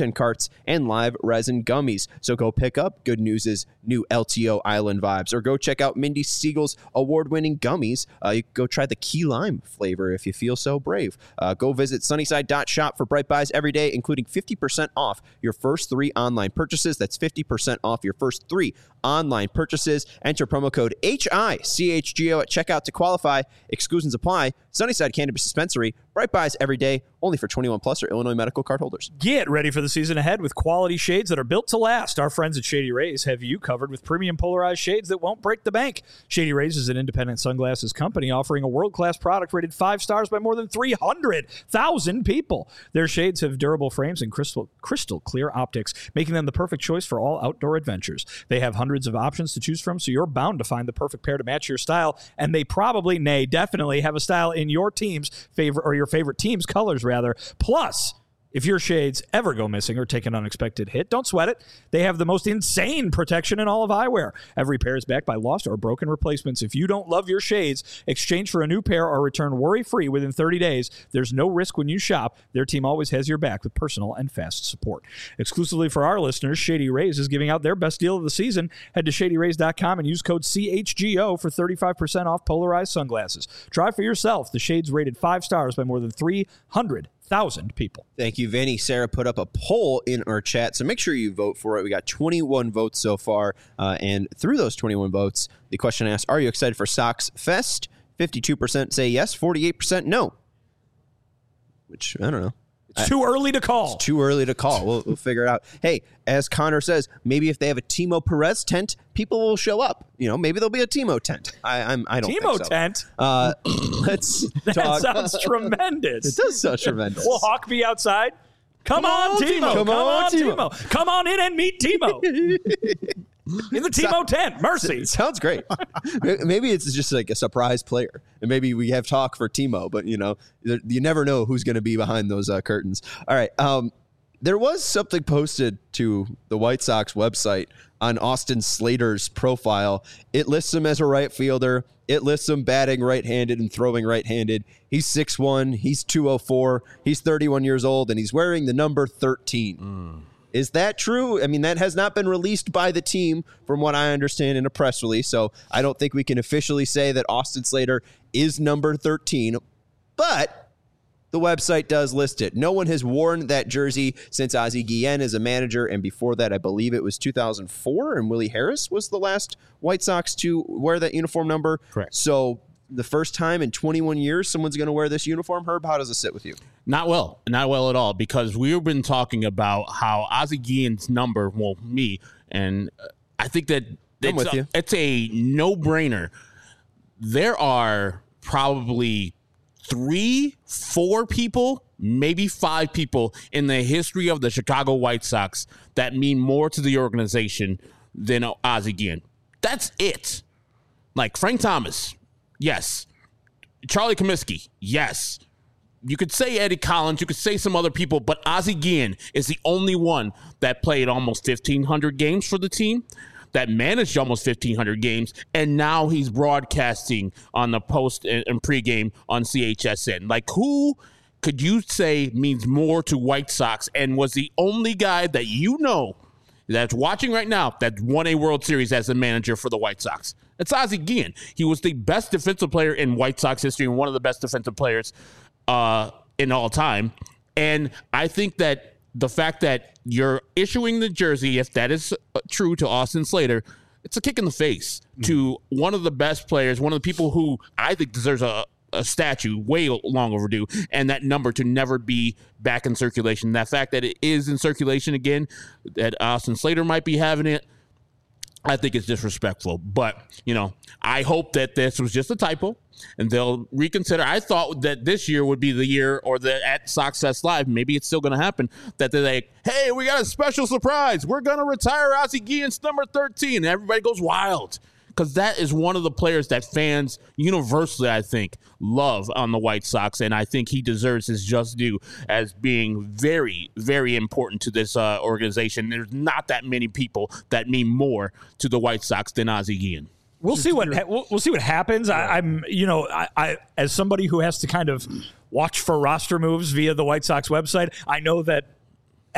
[SPEAKER 1] Plus, and live resin gummies. So go pick up Good News' new LTO Island Vibes, or go check out Mindy Siegel's award-winning gummies. You can go try the key lime flavor if you feel so brave. Go visit sunnyside.shop for Bright Buys every day, including 50% off your first 3 online purchases. That's 50% off your first 3 online purchases. Enter promo code HICHGO at checkout to qualify. Exclusions apply. Sunnyside Cannabis Dispensary. Bright Buys every day, only for 21 plus or Illinois medical card holders.
[SPEAKER 2] Get ready for the season ahead with quality shades that are built to last. Our friends at Shady Rays have you covered with premium polarized shades that won't break the bank. Shady Rays is an independent sunglasses company offering a world-class product rated 5 stars by more than 300,000 people. Their shades have durable frames and crystal clear optics, making them the perfect choice for all outdoor adventures. They have hundreds of options to choose from, so you're bound to find the perfect pair to match your style, and they probably, definitely have a style in your team's favorite, or your favorite team's colors, rather. Plus, if your shades ever go missing or take an unexpected hit, don't sweat it. They have the most insane protection in all of eyewear. Every pair is backed by lost or broken replacements. If you don't love your shades, exchange for a new pair or return worry-free within 30 days. There's no risk when you shop. Their team always has your back with personal and fast support. Exclusively for our listeners, Shady Rays is giving out their best deal of the season. Head to shadyrays.com and use code CHGO for 35% off polarized sunglasses. Try for yourself. The shades rated 5 stars by more than 300,000 people.
[SPEAKER 1] Thank you, Vinny. Sarah put up a poll in our chat, so make sure you vote for it. We got 21 votes so far, and through those 21 votes, the question asked, are you excited for Sox Fest? 52% say yes, 48% no. Which, I don't know.
[SPEAKER 2] It's too early to call.
[SPEAKER 1] It's too early to call. We'll figure it out. Hey, as Connor says, maybe if they have a Timo Perez tent, people will show up. Maybe there'll be a Timo tent. I don't think so.
[SPEAKER 2] Timo tent?
[SPEAKER 1] Let's
[SPEAKER 2] that
[SPEAKER 1] talk.
[SPEAKER 2] Sounds tremendous.
[SPEAKER 1] It does sound tremendous.
[SPEAKER 2] Will Hawk be outside? Come on, Timo. Come on, Timo. Come on in and meet Timo. In the Timo tent. Mercy.
[SPEAKER 1] Sounds great. Maybe it's just like a surprise player. And maybe we have talk for Timo, but, you never know who's going to be behind those curtains. All right. There was something posted to the White Sox website on Austin Slater's profile. It lists him as a right fielder. It lists him batting right-handed and throwing right-handed. He's 6'1", he's 204, he's 31 years old, and he's wearing the number 13. Is that true? I mean, that has not been released by the team from what I understand in a press release, so I don't think we can officially say that Austin Slater is number 13, but the website does list it. No one has worn that jersey since Ozzie Guillen is a manager, and before that, I believe it was 2004, and Willie Harris was the last White Sox to wear that uniform number.
[SPEAKER 5] Correct.
[SPEAKER 1] So the first time in 21 years someone's going to wear this uniform. Herb, how does it sit with you?
[SPEAKER 5] Not well at all, because we've been talking about how Ozzie Guillen's number, me, and I think that it's a no-brainer. There are probably 3-4 people, maybe 5 people in the history of the Chicago White Sox that mean more to the organization than Ozzie Guillen. That's it. Like Frank Thomas, yes. Charlie Comiskey, yes. You could say Eddie Collins, you could say some other people, but Ozzie Guillen is the only one that played almost 1,500 games for the team, that managed almost 1,500 games, and now he's broadcasting on the post and pregame on CHSN. Like, who could you say means more to White Sox and was the only guy that that's watching right now that won a World Series as a manager for the White Sox? It's Ozzie Guillen. He was the best defensive player in White Sox history and one of the best defensive players in all time. And I think that the fact that you're issuing the jersey, if that is true to Austin Slater, it's a kick in the face to one of the best players, one of the people who I think deserves a statue way long overdue, and that number to never be back in circulation. That fact that it is in circulation again, that Austin Slater might be having it, I think it's disrespectful. But, I hope that this was just a typo and they'll reconsider. I thought that this year would be the year, or at Sox Fest Live, maybe it's still going to happen, that they're like, hey, we got a special surprise. We're going to retire Ozzie Guillen's number 13. And everybody goes wild, because that is one of the players that fans universally, I think, love on the White Sox. And I think he deserves his just due as being very, very important to this organization. There's not that many people that mean more to the White Sox than Ozzie Guillen.
[SPEAKER 2] We'll see what happens. I'm as somebody who has to kind of watch for roster moves via the White Sox website, I know that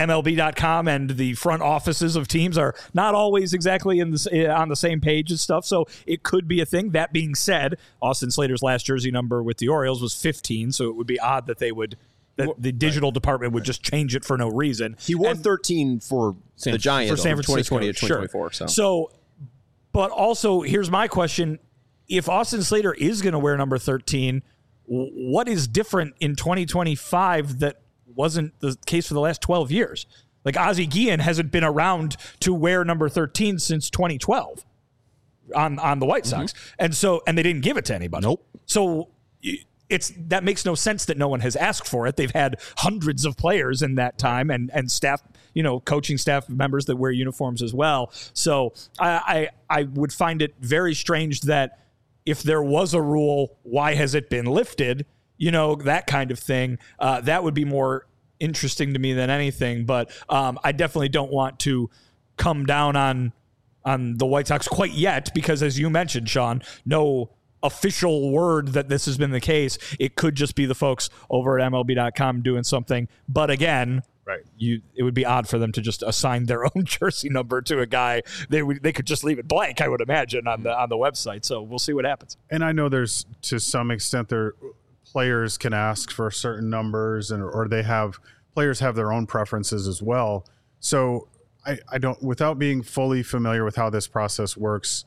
[SPEAKER 2] MLB.com and the front offices of teams are not always exactly on the same page and stuff. So it could be a thing. That being said, Austin Slater's last jersey number with the Orioles was 15, so it would be odd that the digital department would just change it for no reason.
[SPEAKER 1] He wore 13 for the Giants
[SPEAKER 2] for San Francisco,
[SPEAKER 1] 2020 to 2024.
[SPEAKER 2] Sure. So, but also, here's my question. If Austin Slater is going to wear number 13, what is different in 2025 that wasn't the case for the last 12 years? Like Ozzie Guillen hasn't been around to wear number 13 since 2012 on the White Sox. And they didn't give it to anybody.
[SPEAKER 5] Nope.
[SPEAKER 2] So that makes no sense that no one has asked for it. They've had hundreds of players in that time and staff, coaching staff members that wear uniforms as well. So I would find it very strange that if there was a rule, why has it been lifted? That kind of thing. That would be more interesting to me than anything. But I definitely don't want to come down on the White Sox quite yet because, as you mentioned, Sean, no official word that this has been the case. It could just be the folks over at MLB.com doing something. But again,
[SPEAKER 4] right,
[SPEAKER 2] it would be odd for them to just assign their own jersey number to a guy. They could just leave it blank, I would imagine, on the website. So we'll see what happens.
[SPEAKER 4] And I know there's, to some extent, players can ask for certain numbers, or players have their own preferences as well. So I don't, without being fully familiar with how this process works,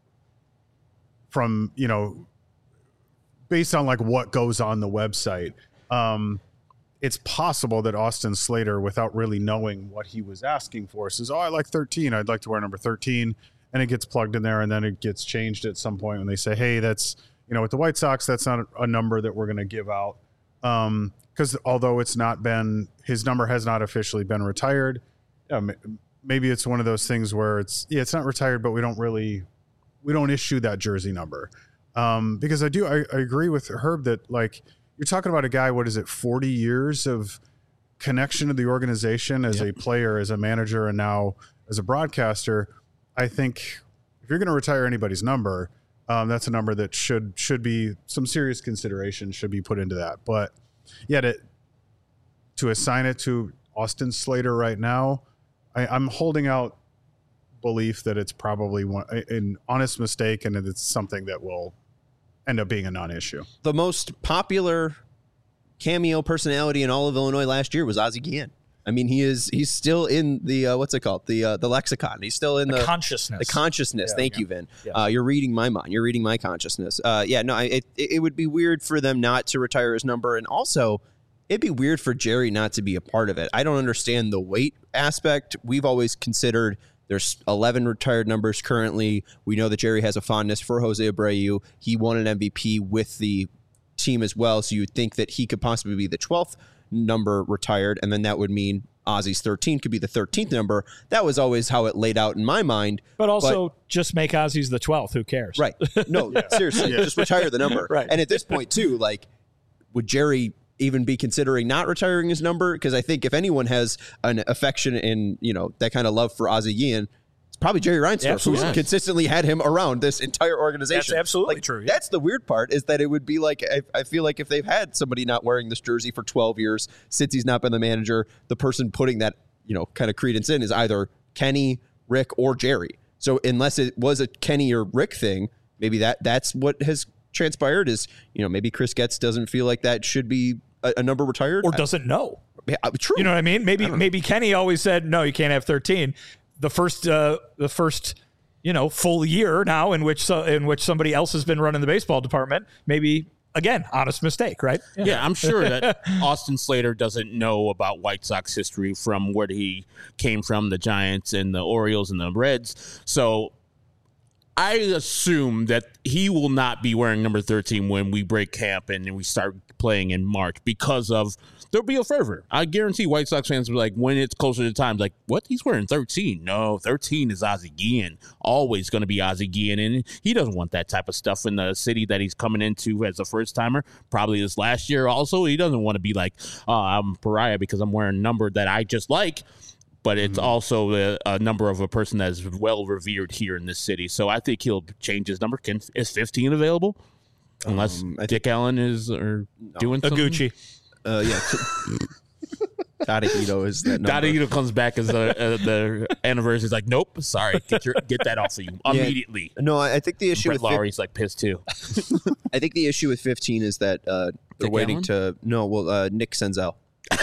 [SPEAKER 4] from based on like what goes on the website, it's possible that Austin Slater, without really knowing what he was asking for, says, I like 13, I'd like to wear number 13, and it gets plugged in there, and then it gets changed at some point when they say, hey, that's with the White Sox, that's not a number that we're going to give out, because although his number has not officially been retired, maybe it's one of those things where it's not retired, but we don't issue that jersey number. Because I agree with Herb that, like, you're talking about a guy, 40 years of connection to the organization as a player, as a manager, and now as a broadcaster. I think if you're going to retire anybody's number, that's a number that should be some serious consideration should be put into that. But to assign it to Austin Slater right now, I'm holding out belief that it's probably an honest mistake and that it's something that will end up being a non-issue.
[SPEAKER 1] The most popular cameo personality in all of Illinois last year was Ozzie Guillen. I mean, he's still in the what's it called, the lexicon. He's still in the
[SPEAKER 2] consciousness.
[SPEAKER 1] The consciousness. Thank you, Vin.
[SPEAKER 2] Yeah.
[SPEAKER 1] You're reading my mind. You're reading my consciousness. It would be weird for them not to retire his number, and also it'd be weird for Jerry not to be a part of it. I don't understand the weight aspect. We've always considered there's 11 retired numbers currently. We know that Jerry has a fondness for Jose Abreu. He won an MVP with the team as well, so you'd think that he could possibly be the 12th number retired, and then that would mean Ozzie's 13 could be the 13th number. That was always how it laid out in my mind.
[SPEAKER 2] But also, just make Ozzie's the 12th. Who cares?
[SPEAKER 1] Right. No, seriously, just retire the number.
[SPEAKER 2] Right.
[SPEAKER 1] And at this point, too, like, would Jerry even be considering not retiring his number? Because I think if anyone has an affection and, that kind of love for Ozzie Guillen, it's probably Jerry Reinsdorf, who's consistently had him around this entire organization.
[SPEAKER 2] That's absolutely true. Yeah.
[SPEAKER 1] That's the weird part, is that it would be like, I feel like if they've had somebody not wearing this jersey for 12 years, since he's not been the manager, the person putting that, kind of credence in is either Kenny, Rick, or Jerry. So unless it was a Kenny or Rick thing, maybe that's what has transpired is, maybe Chris Getz doesn't feel like that should be a number retired.
[SPEAKER 2] Or doesn't know.
[SPEAKER 1] Yeah, true.
[SPEAKER 2] You know what I mean? Maybe Kenny always said, no, you can't have 13. The first full year now in which somebody else has been running the baseball department, maybe, again, honest mistake, right?
[SPEAKER 5] Yeah, I'm sure that Austin Slater doesn't know about White Sox history from where he came from, the Giants and the Orioles and the Reds. So I assume that he will not be wearing number 13 when we break camp and we start playing in March, because of there'll be a fervor. I guarantee White Sox fans will be like, when it's closer to time, like, what? He's wearing 13. No, 13 is Ozzie Guillen. Always going to be Ozzie Guillen. And he doesn't want that type of stuff in the city that he's coming into as a first timer. Probably this last year also. He doesn't want to be like, I'm a pariah because I'm wearing a number that I just like. But it's also a number of a person that is well revered here in this city. So I think he'll change his number. Is 15 available? Unless Dick Allen is doing something.
[SPEAKER 2] Gucci.
[SPEAKER 1] Yeah. Tadahito is that number.
[SPEAKER 5] Tadahito comes back as the anniversary. Is like, nope, sorry, get that off of you immediately.
[SPEAKER 1] No, I think the issue
[SPEAKER 5] Brett
[SPEAKER 1] with
[SPEAKER 5] Lowry's like pissed too.
[SPEAKER 1] I think the issue with 15 is that they're
[SPEAKER 5] Dick
[SPEAKER 1] waiting
[SPEAKER 5] Allen?
[SPEAKER 1] Nick Senzel.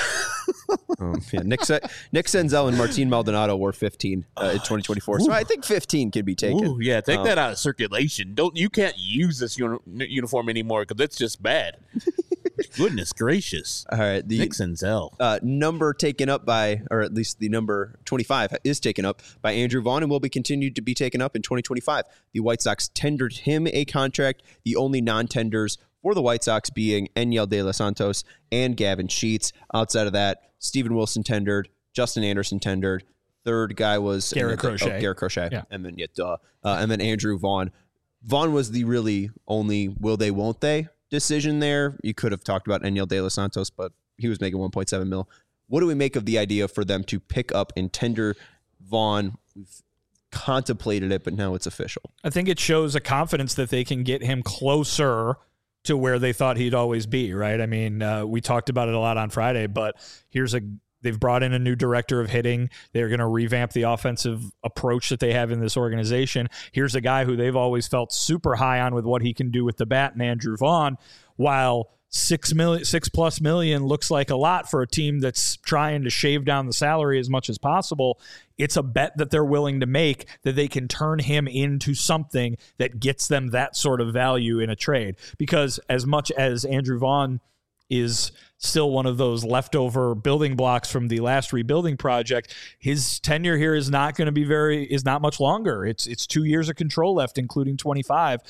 [SPEAKER 1] Nick Senzel and Martin Maldonado were 15 in 2024. So I think 15 could be taken.
[SPEAKER 5] Ooh, yeah, take that out of circulation. You can't use this uniform anymore because it's just bad. Goodness gracious.
[SPEAKER 1] All right. The
[SPEAKER 5] Nick Senzel.
[SPEAKER 1] Number taken up by, or at least the number 25 is taken up by Andrew Vaughn and will be continued to be taken up in 2025. The White Sox tendered him a contract. The only non-tenders for the White Sox being Enyel De Los Santos and Gavin Sheets. Outside of that, Steven Wilson tendered, Justin Anderson tendered. Third guy was
[SPEAKER 2] Garrett Crochet.
[SPEAKER 1] Garrett Crochet.
[SPEAKER 2] Yeah.
[SPEAKER 1] And then and then Andrew Vaughn. Vaughn was the really only will they, won't they decision there. You could have talked about Enyel De Los Santos, but he was making $1.7 million. What do we make of the idea for them to pick up and tender Vaughn? We've contemplated it, but now it's official.
[SPEAKER 2] I think it shows a confidence that they can get him closer to where they thought he'd always be, right? I mean, we talked about it a lot on Friday, but they've brought in a new director of hitting. They're going to revamp the offensive approach that they have in this organization. Here's a guy who they've always felt super high on with what he can do with the bat, and Andrew Vaughn, while $6+ million looks like a lot for a team that's trying to shave down the salary as much as possible. It's a bet that they're willing to make that they can turn him into something that gets them that sort of value in a trade. Because as much as Andrew Vaughn is still one of those leftover building blocks from the last rebuilding project, his tenure here is not going to be is not much longer. It's 2 years of control left, including 25.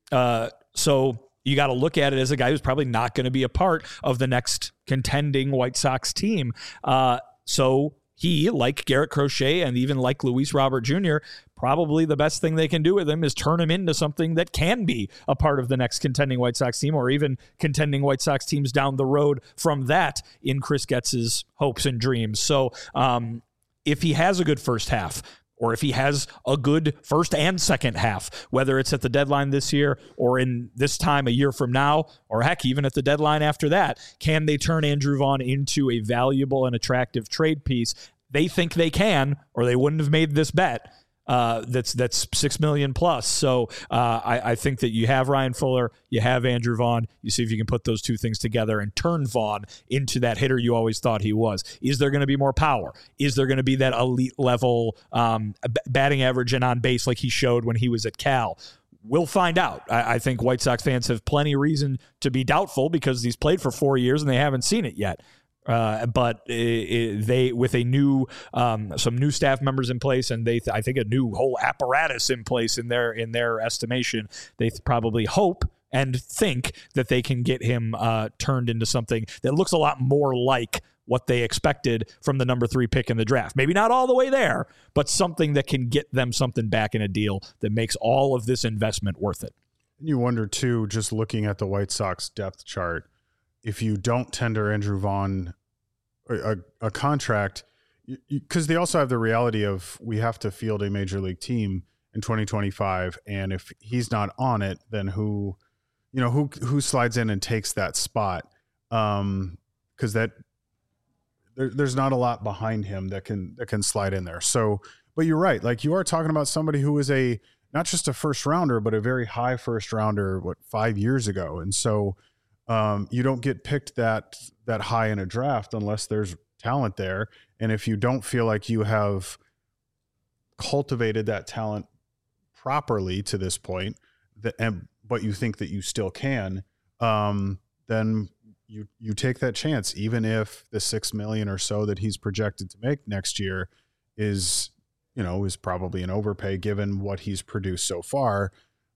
[SPEAKER 2] So you got to look at it as a guy who's probably not going to be a part of the next contending White Sox team. So he, like Garrett Crochet and even like Luis Robert Jr., probably the best thing they can do with him is turn him into something that can be a part of the next contending White Sox team, or even contending White Sox teams down the road from that in Chris Getz's hopes and dreams. So if he has a good first half, or if he has a good first and second half, whether it's at the deadline this year or in this time a year from now, or heck, even at the deadline after that, can they turn Andrew Vaughn into a valuable and attractive trade piece? They think they can, or they wouldn't have made this bet. That's $6 million plus. So I think that you have Ryan Fuller, you have Andrew Vaughn. You see if you can put those two things together and turn Vaughn into that hitter you always thought he was. Is there going to be more power? Is there going to be that elite level batting average and on base like he showed when he was at Cal? We'll find out. I think White Sox fans have plenty of reason to be doubtful because he's played for 4 years and they haven't seen it yet. But they, with a new, some new staff members in place, and I think a new whole apparatus in place in their estimation, they probably hope and think that they can get him turned into something that looks a lot more like what they expected from the number 3 pick in the draft. Maybe not all the way there, but something that can get them something back in a deal that makes all of this investment worth it.
[SPEAKER 4] You wonder too, just looking at the White Sox depth chart, if you don't tender Andrew Vaughn a contract, because they also have the reality of we have to field a major league team in 2025, and if he's not on it, then who slides in and takes that spot? Because there's not a lot behind him that can slide in there. So, but you're right. Like, you are talking about somebody who was not just a first rounder, but a very high first rounder, 5 years ago. And so you don't get picked that high in a draft unless there's talent there. And if you don't feel like you have cultivated that talent properly to this point, but you think that you still can, then you take that chance, even if the $6 million or so that he's projected to make next year is probably an overpay given what he's produced so far.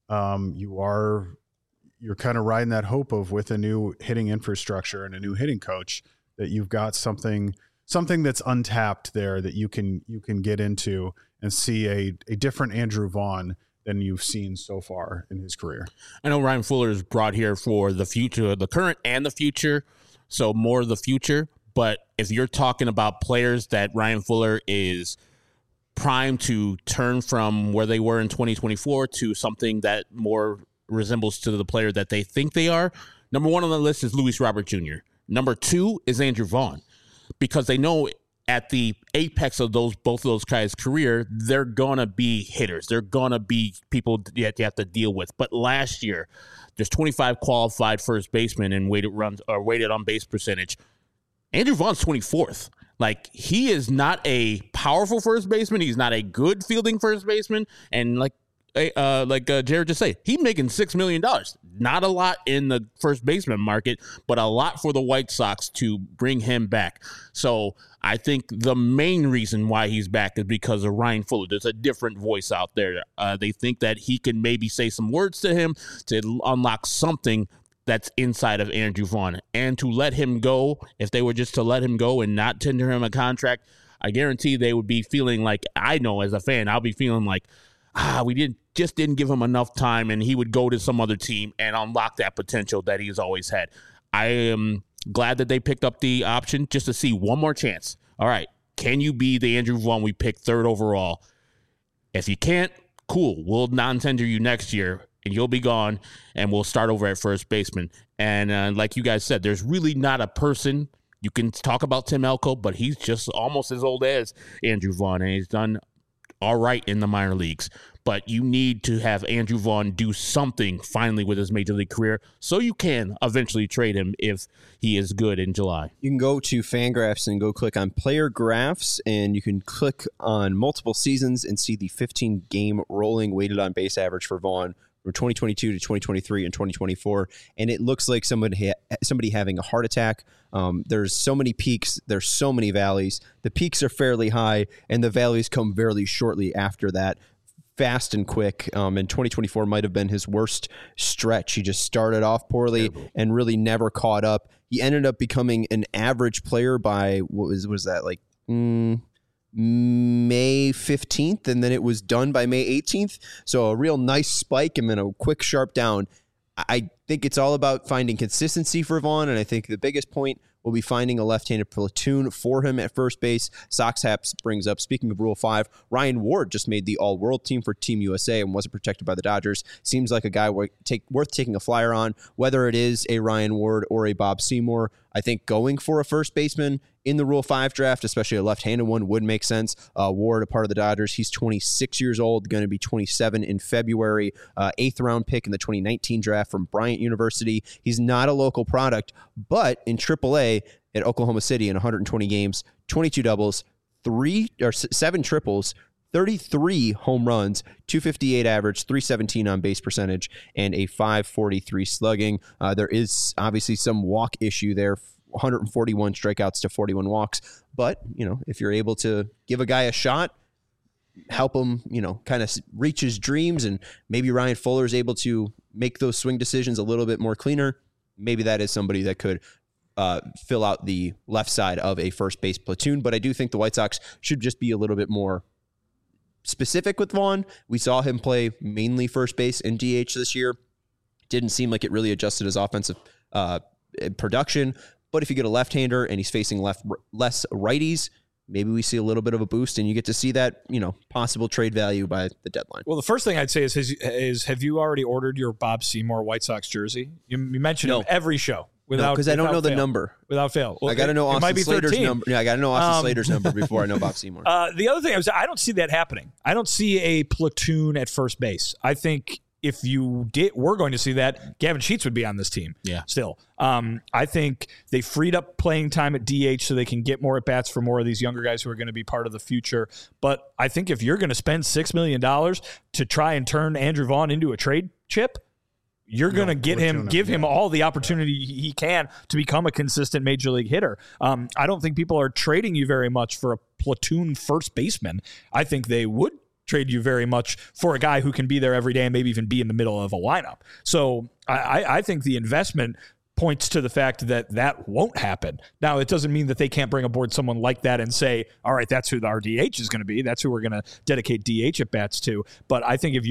[SPEAKER 4] You're kind of riding that hope of, with a new hitting infrastructure and a new hitting coach, that you've got something that's untapped there that you can get into and see a different Andrew Vaughn than you've seen so far in his career.
[SPEAKER 5] I know Ryan Fuller is brought here for the future, the current and the future, so more of the future. But if you're talking about players that Ryan Fuller is primed to turn from where they were in 2024 to something that more resembles to the player that they think they are, number 1 on the list is Luis Robert Jr. Number 2 is Andrew Vaughn. because they know at the apex of both of those guys' career, they're gonna be hitters. They're gonna be people that you have to deal with. But last year, there's 25 qualified first basemen and weighted on base percentage. Andrew Vaughn's 24th. Like, he is not a powerful first baseman. He's not a good fielding first baseman. And like Jared just said, he's making $6 million. Not a lot in the first baseman market, but a lot for the White Sox to bring him back. So I think the main reason why he's back is because of Ryan Fuller. There's a different voice out there. They think that he can maybe say some words to him to unlock something that's inside of Andrew Vaughn. And to let him go, if they were just to let him go and not tender him a contract, I guarantee they would be feeling like, I know as a fan, I'll be feeling like, we didn't give him enough time, and he would go to some other team and unlock that potential that he's always had. I am glad that they picked up the option just to see one more chance. All right, can you be the Andrew Vaughn we picked 3rd overall? If you can't, cool. We'll non-tender you next year, and you'll be gone, and we'll start over at first baseman. And like you guys said, there's really not a person. You can talk about Tim Elko, but he's just almost as old as Andrew Vaughn, and he's done all right in the minor leagues. But you need to have Andrew Vaughn do something finally with his major league career so you can eventually trade him if he is good in July.
[SPEAKER 1] You can go to Fangraphs and go click on player graphs, and you can click on multiple seasons and see the 15-game rolling weighted on base average for Vaughn from 2022 to 2023 and 2024. And it looks like somebody having a heart attack. There's so many peaks. There's so many valleys. The peaks are fairly high, and the valleys come fairly shortly after that. Fast and quick, and 2024 might have been his worst stretch. He just started off poorly and really never caught up. He ended up becoming an average player by, what was that, like May 15th, and then it was done by May 18th. So a real nice spike and then a quick sharp down. I think it's all about finding consistency for Vaughn, and I think the biggest point will be finding a left-handed platoon for him at first base. Sox Haps brings up, speaking of Rule 5, Ryan Ward just made the All-World team for Team USA and wasn't protected by the Dodgers. Seems like a guy worth taking a flyer on, whether it is a Ryan Ward or a Bob Seymour. I think going for a first baseman in the Rule 5 draft, especially a left-handed one, would make sense. Ward, a part of the Dodgers, he's 26 years old, going to be 27 in February. 8th-round pick in the 2019 draft from Bryant University. He's not a local product, but in AAA at Oklahoma City in 120 games, 22 doubles, 7 triples, 33 home runs, 258 average, 317 on base percentage, and a 543 slugging. There is obviously some walk issue there, 141 strikeouts to 41 walks. But, if you're able to give a guy a shot, help him, kind of reach his dreams, and maybe Ryan Fuller is able to make those swing decisions a little bit more cleaner, maybe that is somebody that could fill out the left side of a first base platoon. But I do think the White Sox should just be a little bit more specific with Vaughn. We saw him play mainly first base and DH this year. Didn't seem like it really adjusted his offensive production. But if you get a left-hander and he's facing less righties, maybe we see a little bit of a boost, and you get to see that, possible trade value by the deadline.
[SPEAKER 2] Well, the first thing I'd say is have you already ordered your Bob Seymour White Sox jersey? You mentioned him every show.
[SPEAKER 1] Because I don't know the number.
[SPEAKER 2] Without fail.
[SPEAKER 1] Well, I got to know Austin Slater's number. Yeah, I got to know Austin Slater's number before I know Bob Seymour.
[SPEAKER 2] The other thing I don't see that happening. I don't see a platoon at first base. I think if we're going to see that, Gavin Sheets would be on this team.
[SPEAKER 5] Yeah.
[SPEAKER 2] Still. I think they freed up playing time at DH so they can get more at-bats for more of these younger guys who are going to be part of the future. But I think if you're going to spend $6 million to try and turn Andrew Vaughn into a trade chip, you're going to give him all the opportunity he can to become a consistent major league hitter. I don't think people are trading you very much for a platoon first baseman. I think they would trade you very much for a guy who can be there every day and maybe even be in the middle of a lineup. So I think the investment points to the fact that won't happen. Now, it doesn't mean that they can't bring aboard someone like that and say, all right, that's who our DH is going to be. That's who we're going to dedicate DH at bats to. But I think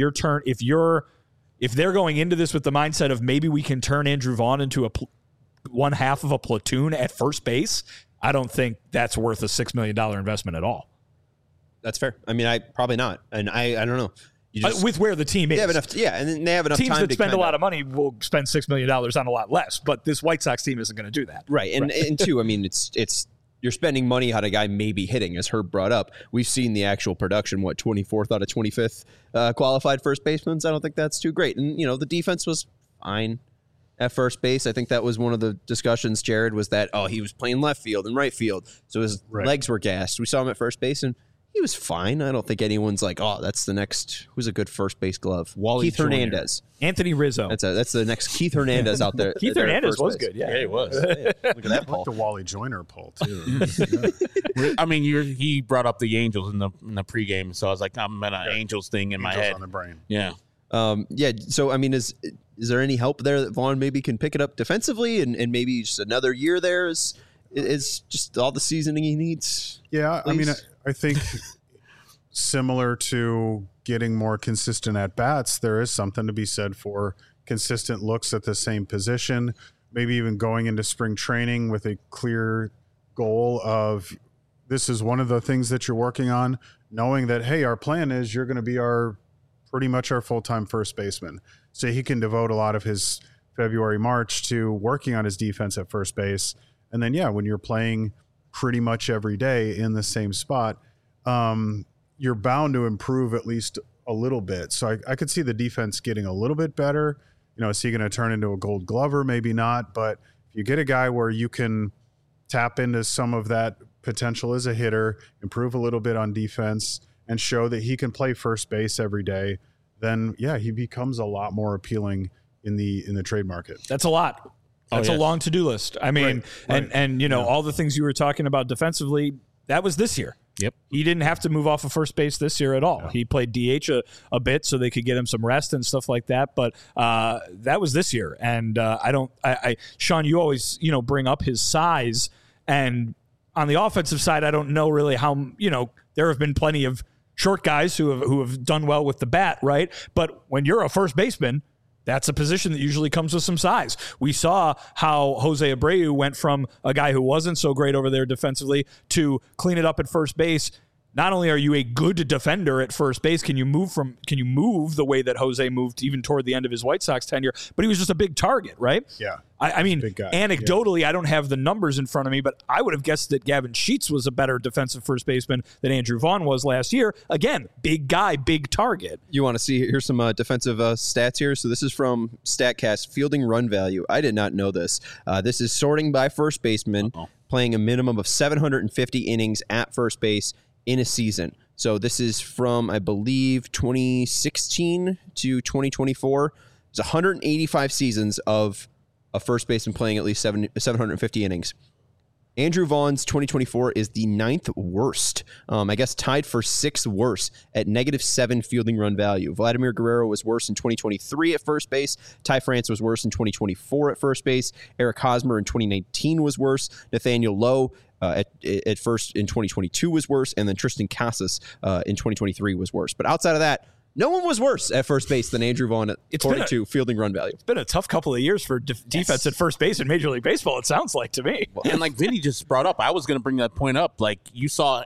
[SPEAKER 2] if they're going into this with the mindset of maybe we can turn Andrew Vaughn into one half of a platoon at first base, I don't think that's worth a $6 million investment at all.
[SPEAKER 1] That's fair. I mean, probably not. And I don't know.
[SPEAKER 2] With where the team is.
[SPEAKER 1] And then they have enough
[SPEAKER 2] teams
[SPEAKER 1] time
[SPEAKER 2] that spend a lot of money will spend $6 million on a lot less, but this White Sox team isn't going to do that.
[SPEAKER 1] Right. And two, I mean, it's you're spending money on a guy maybe hitting, as Herb brought up. We've seen the actual production, 24th out of 25th qualified first basemen. I don't think that's too great. And, the defense was fine at first base. I think that was one of the discussions, Jared, was that, he was playing left field and right field, so his legs were gassed. We saw him at first base, and he was fine. I don't think anyone's like, that's the next, who's a good first base glove? Keith Hernandez.
[SPEAKER 2] Anthony Rizzo.
[SPEAKER 1] That's the next Keith Hernandez out there.
[SPEAKER 2] Keith Hernandez was good. Yeah,
[SPEAKER 5] he was.
[SPEAKER 1] Look at that
[SPEAKER 4] I like the Wally Joyner poll, too.
[SPEAKER 5] I mean, he brought up the Angels in the pregame, so I was like, I'm an Angels thing in my head.
[SPEAKER 4] On the brain.
[SPEAKER 5] Yeah.
[SPEAKER 1] So, I mean, is there any help there that Vaughn maybe can pick it up defensively and maybe just another year there is just all the seasoning he needs?
[SPEAKER 4] Yeah, I mean, I think similar to getting more consistent at bats, there is something to be said for consistent looks at the same position, maybe even going into spring training with a clear goal of this is one of the things that you're working on, knowing that, hey, our plan is you're going to be pretty much our full-time first baseman. So he can devote a lot of his February, March to working on his defense at first base. And then, when you're playing pretty much every day in the same spot, you're bound to improve at least a little bit. So I could see the defense getting a little bit better. Is he going to turn into a Gold Glover? Maybe not. But if you get a guy where you can tap into some of that potential as a hitter, improve a little bit on defense, and show that he can play first base every day, then he becomes a lot more appealing in the trade market.
[SPEAKER 2] That's a lot. That's a long to-do list. I mean, and all the things you were talking about defensively, that was this year.
[SPEAKER 5] Yep.
[SPEAKER 2] He didn't have to move off of first base this year at all. He played DH a bit so they could get him some rest and stuff like that. But that was this year. And Sean, you always, bring up his size. And on the offensive side, I don't know really how, there have been plenty of short guys who have done well with the bat, right? But when you're a first baseman, that's a position that usually comes with some size. We saw how Jose Abreu went from a guy who wasn't so great over there defensively to clean it up at first base. Not only are you a good defender at first base, can you move the way that Jose moved even toward the end of his White Sox tenure, but he was just a big target, right?
[SPEAKER 4] Yeah.
[SPEAKER 2] I mean, anecdotally, I don't have the numbers in front of me, but I would have guessed that Gavin Sheets was a better defensive first baseman than Andrew Vaughn was last year. Again, big guy, big target.
[SPEAKER 1] You want to see, here's some defensive stats here. So this is from StatCast, fielding run value. I did not know this. This is sorting by first baseman, playing a minimum of 750 innings at first base in a season. So this is from, I believe, 2016 to 2024. There's 185 seasons of a first baseman playing at least 750 innings. Andrew Vaughn's 2024 is the 9th worst, I guess tied for 6th worst at -7 fielding run value. Vladimir Guerrero was worse in 2023 at first base. Ty France was worse in 2024 at first base. Eric Hosmer in 2019 was worse. Nathaniel Lowe at first in 2022 was worse. And then Tristan Casas in 2023 was worse. But outside of that, no one was worse at first base than Andrew Vaughn according to fielding run value.
[SPEAKER 2] It's been a tough couple of years for defense at first base in Major League Baseball, it sounds like to me.
[SPEAKER 5] And like Vinny just brought up, I was going to bring that point up. Like you saw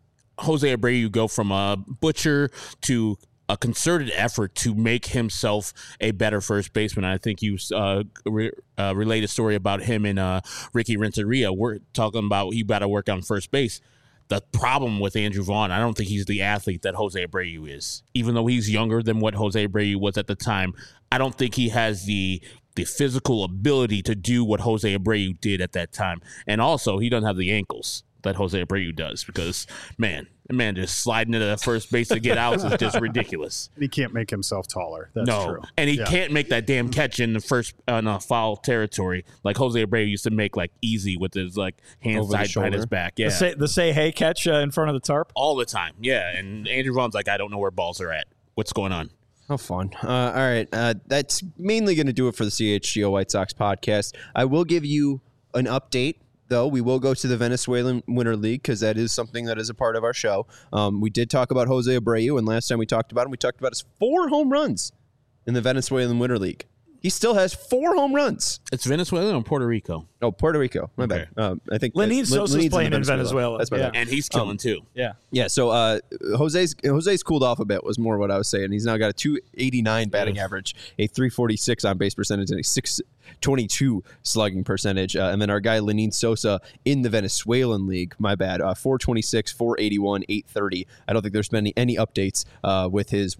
[SPEAKER 5] Jose Abreu go from a butcher to a concerted effort to make himself a better first baseman. I think you relayed a story about him and Ricky Renteria. We're talking about he got to work on first base. The problem with Andrew Vaughn, I don't think he's the athlete that Jose Abreu is. Even though he's younger than what Jose Abreu was at the time, I don't think he has the physical ability to do what Jose Abreu did at that time. And also, he doesn't have the ankles that Jose Abreu does because, man just sliding into the first base to get out is just ridiculous.
[SPEAKER 4] He can't make himself taller. That's true.
[SPEAKER 5] And he can't make that damn catch in the first foul territory like Jose Abreu used to make like easy with his like hands tied behind his back. Yeah,
[SPEAKER 2] the say hey catch in front of the tarp
[SPEAKER 5] all the time. Yeah, and Andrew Vaughn's like, I don't know where balls are at. What's going on?
[SPEAKER 1] How fun. All right. That's mainly going to do it for the CHGO White Sox podcast. I will give you an update, though. We will go to the Venezuelan Winter League because that is something that is a part of our show. We did talk about Jose Abreu, and last time we talked about him, we talked about his 4 home runs in the Venezuelan Winter League. He still has 4 home runs.
[SPEAKER 5] It's Venezuela or Puerto Rico?
[SPEAKER 1] Oh, Puerto Rico. My bad. I think
[SPEAKER 2] Lenin Sosa's playing in Venezuela.
[SPEAKER 1] That's my bad.
[SPEAKER 5] And he's killing too.
[SPEAKER 1] Yeah. So Jose's cooled off a bit was more what I was saying. He's now got a 289 batting average, a 346 on base percentage, and a .22 slugging percentage. And then our guy Lenin Sosa in the Venezuelan league, my bad, 426, 481, 830. I don't think there's been any updates with his,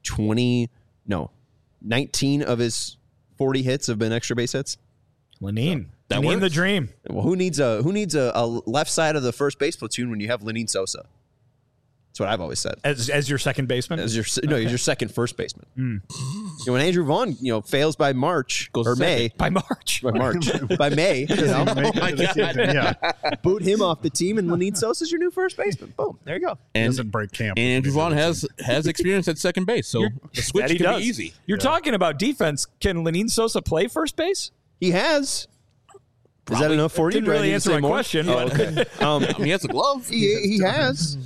[SPEAKER 1] 19 of his 40 hits have been extra base hits.
[SPEAKER 2] Lenin.
[SPEAKER 5] That
[SPEAKER 2] Lenin
[SPEAKER 5] works.
[SPEAKER 2] the dream.
[SPEAKER 1] Well, who needs a left side of the first base platoon when you have Lenin Sosa? That's what I've always said.
[SPEAKER 2] As your second baseman?
[SPEAKER 1] He's your second first baseman. When Andrew Vaughn, fails by March
[SPEAKER 5] Goes
[SPEAKER 1] or
[SPEAKER 5] second.
[SPEAKER 1] May,
[SPEAKER 2] By March.
[SPEAKER 1] by May,
[SPEAKER 4] Yeah,
[SPEAKER 1] boot him off the team, and Lenin Sosa's your new first baseman. Boom, there you go.
[SPEAKER 5] And
[SPEAKER 4] doesn't break camp.
[SPEAKER 5] And Andrew Vaughn has experience at second base, so the switch
[SPEAKER 2] That he
[SPEAKER 5] can
[SPEAKER 2] does.
[SPEAKER 5] be easy.
[SPEAKER 2] You're talking about defense. Can Lenin Sosa play first base?
[SPEAKER 1] He has. Is that enough for you?
[SPEAKER 2] Didn't
[SPEAKER 1] Do I
[SPEAKER 2] really
[SPEAKER 1] need to
[SPEAKER 2] answer
[SPEAKER 1] say
[SPEAKER 2] my
[SPEAKER 1] more?
[SPEAKER 2] question.
[SPEAKER 1] Oh,
[SPEAKER 2] but-
[SPEAKER 1] okay.
[SPEAKER 5] He has a glove.
[SPEAKER 1] He has.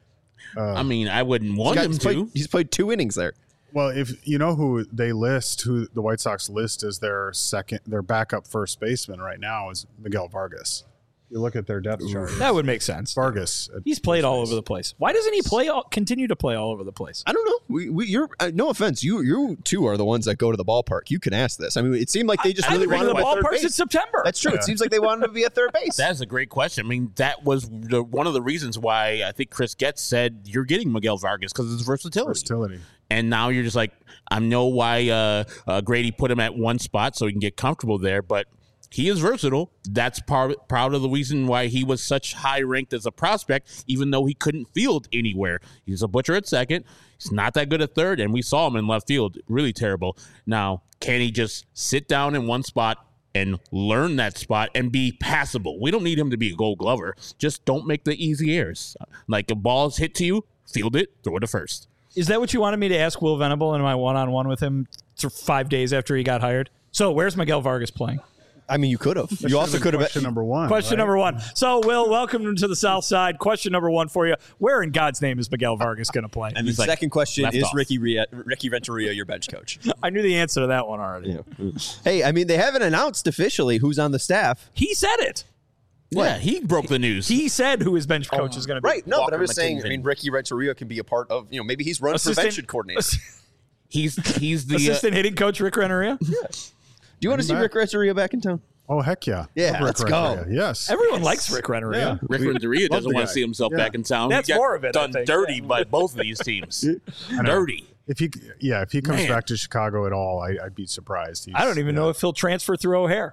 [SPEAKER 5] I mean, I wouldn't want him to.
[SPEAKER 1] He's played 2 innings there.
[SPEAKER 4] Well, if you know who the White Sox list as their backup first baseman right now is Miguel Vargas. You look at their depth chart.
[SPEAKER 2] That would make sense.
[SPEAKER 4] Vargas.
[SPEAKER 2] He's played all over the place. Why doesn't he continue to play all over the place?
[SPEAKER 1] I don't know. You're no offense. You two are the ones that go to the ballpark. You can ask this. I mean, it seemed like they just
[SPEAKER 2] I
[SPEAKER 1] really
[SPEAKER 2] bring
[SPEAKER 1] wanted
[SPEAKER 2] the
[SPEAKER 1] him at third
[SPEAKER 2] ballparks in
[SPEAKER 1] base.
[SPEAKER 2] September.
[SPEAKER 1] That's true. It seems like they wanted him to be at third base.
[SPEAKER 5] That's a great question. I mean, that was one of the reasons why I think Chris Getz said you're getting Miguel Vargas because of his versatility. And now you're just like, I know why Grady put him at one spot so he can get comfortable there, but he is versatile. That's proud of the reason why he was such high ranked as a prospect, even though he couldn't field anywhere. He's a butcher at second. He's not that good at third, and we saw him in left field. Really terrible. Now, can he just sit down in one spot and learn that spot and be passable? We don't need him to be a Gold Glover. Just don't make the easy errors. Like a ball's hit to you, field it, throw it to first.
[SPEAKER 2] Is that what you wanted me to ask Will Venable in my one-on-one with him 5 days after he got hired? So where's Miguel Vargas playing?
[SPEAKER 1] I mean, you could have. You also could have.
[SPEAKER 4] Question number one.
[SPEAKER 2] Question
[SPEAKER 4] right?
[SPEAKER 2] number one. So, Will, welcome to the South Side. Question number one for you. Where in God's name is Miguel Vargas going to play?
[SPEAKER 1] And the
[SPEAKER 5] He's like,
[SPEAKER 1] second question
[SPEAKER 5] left
[SPEAKER 1] is
[SPEAKER 5] off.
[SPEAKER 1] Ricky Renteria your bench coach?
[SPEAKER 2] I knew the answer to that one already.
[SPEAKER 1] Hey, I mean, they haven't announced officially who's on the staff.
[SPEAKER 2] He said it.
[SPEAKER 5] Yeah, he broke the news.
[SPEAKER 2] He said who his bench coach is going to be.
[SPEAKER 1] Right. No, but I'm
[SPEAKER 5] Walker
[SPEAKER 1] just saying,
[SPEAKER 5] McKinnon.
[SPEAKER 1] Ricky Renteria can be a part of, maybe he's run prevention coordinator.
[SPEAKER 5] He's the
[SPEAKER 2] Assistant hitting coach Rick Renteria.
[SPEAKER 1] Do you want to see
[SPEAKER 4] back.
[SPEAKER 1] Rick Renteria back in town?
[SPEAKER 4] Oh, heck yeah.
[SPEAKER 1] Yeah,
[SPEAKER 4] Rick
[SPEAKER 1] let's
[SPEAKER 4] Renteria.
[SPEAKER 1] go.
[SPEAKER 4] Yes.
[SPEAKER 2] Everyone likes Rick Renteria.
[SPEAKER 5] Rick Renteria
[SPEAKER 4] love
[SPEAKER 5] doesn't
[SPEAKER 4] the
[SPEAKER 5] want
[SPEAKER 4] guy.
[SPEAKER 5] to see himself
[SPEAKER 4] Yeah.
[SPEAKER 5] back in town.
[SPEAKER 2] That's
[SPEAKER 5] He got
[SPEAKER 2] more of it, I
[SPEAKER 5] done
[SPEAKER 2] think.
[SPEAKER 5] dirty by both of these teams. Dirty.
[SPEAKER 4] If he comes
[SPEAKER 5] Man.
[SPEAKER 4] back to Chicago at all, I'd be surprised.
[SPEAKER 2] I don't even know if he'll transfer through O'Hare.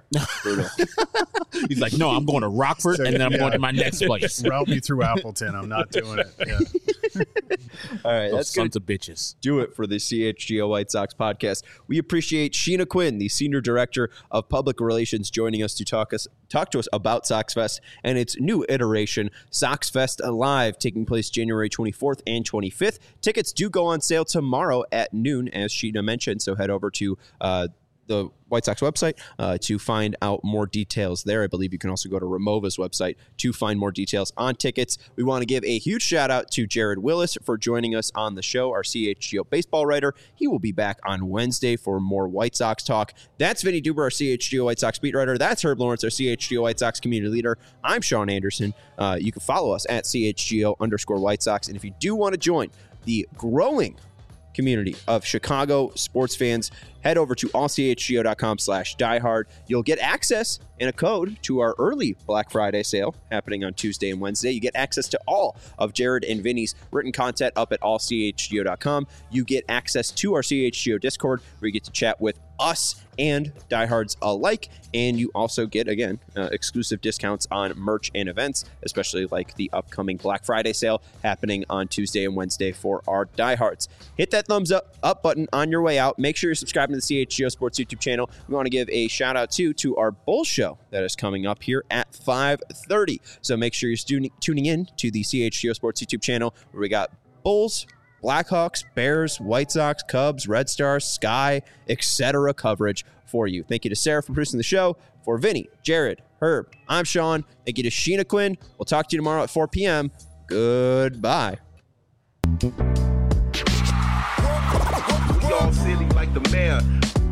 [SPEAKER 5] He's like, no, I'm going to Rockford, and then I'm going to my next place.
[SPEAKER 4] Route me through Appleton. I'm not doing it. Yeah.
[SPEAKER 1] All right,
[SPEAKER 5] Those
[SPEAKER 1] that's going
[SPEAKER 5] sons
[SPEAKER 1] to
[SPEAKER 5] of bitches.
[SPEAKER 1] do it for the CHGO White Sox podcast. We appreciate Sheena Quinn, the Senior Director of Public Relations, joining us to talk to us about Sox Fest and its new iteration, Sox Fest Live, taking place January 24th and 25th. Tickets do go on sale tomorrow at noon, as Sheena mentioned, so head over to the White Sox website to find out more details there. I believe you can also go to Remova's website to find more details on tickets. We want to give a huge shout out to Jared Willis for joining us on the show, our CHGO baseball writer. He will be back on Wednesday for more White Sox talk. That's Vinny Duber, our CHGO White Sox beat writer. That's Herb Lawrence, our CHGO White Sox community leader. I'm Sean Anderson. You can follow us at CHGO_White Sox. And if you do want to join the growing community of Chicago sports fans, head over to allchgo.com/diehard. You'll get access and a code to our early Black Friday sale happening on Tuesday and Wednesday. You get access to all of Jared and Vinny's written content up at allchgo.com. You get access to our CHGO Discord, where you get to chat with us and diehards alike, and you also get, again, exclusive discounts on merch and events, especially like the upcoming Black Friday sale happening on Tuesday and Wednesday for our diehards. Hit that thumbs up button on your way out. Make sure you're subscribing to the CHGO Sports YouTube channel. We want to give a shout out to our Bulls show that is coming up here at 5:30. So make sure you're tuning in to the CHGO Sports YouTube channel, where we got Bulls, Blackhawks, Bears, White Sox, Cubs, Red Stars, Sky, etc. coverage for you. Thank you to Sarah for producing the show. For Vinny, Jared, Herb, I'm Sean. Thank you to Sheena Quinn. We'll talk to you tomorrow at 4 p.m. Goodbye.
[SPEAKER 6] We all silly like the mayor.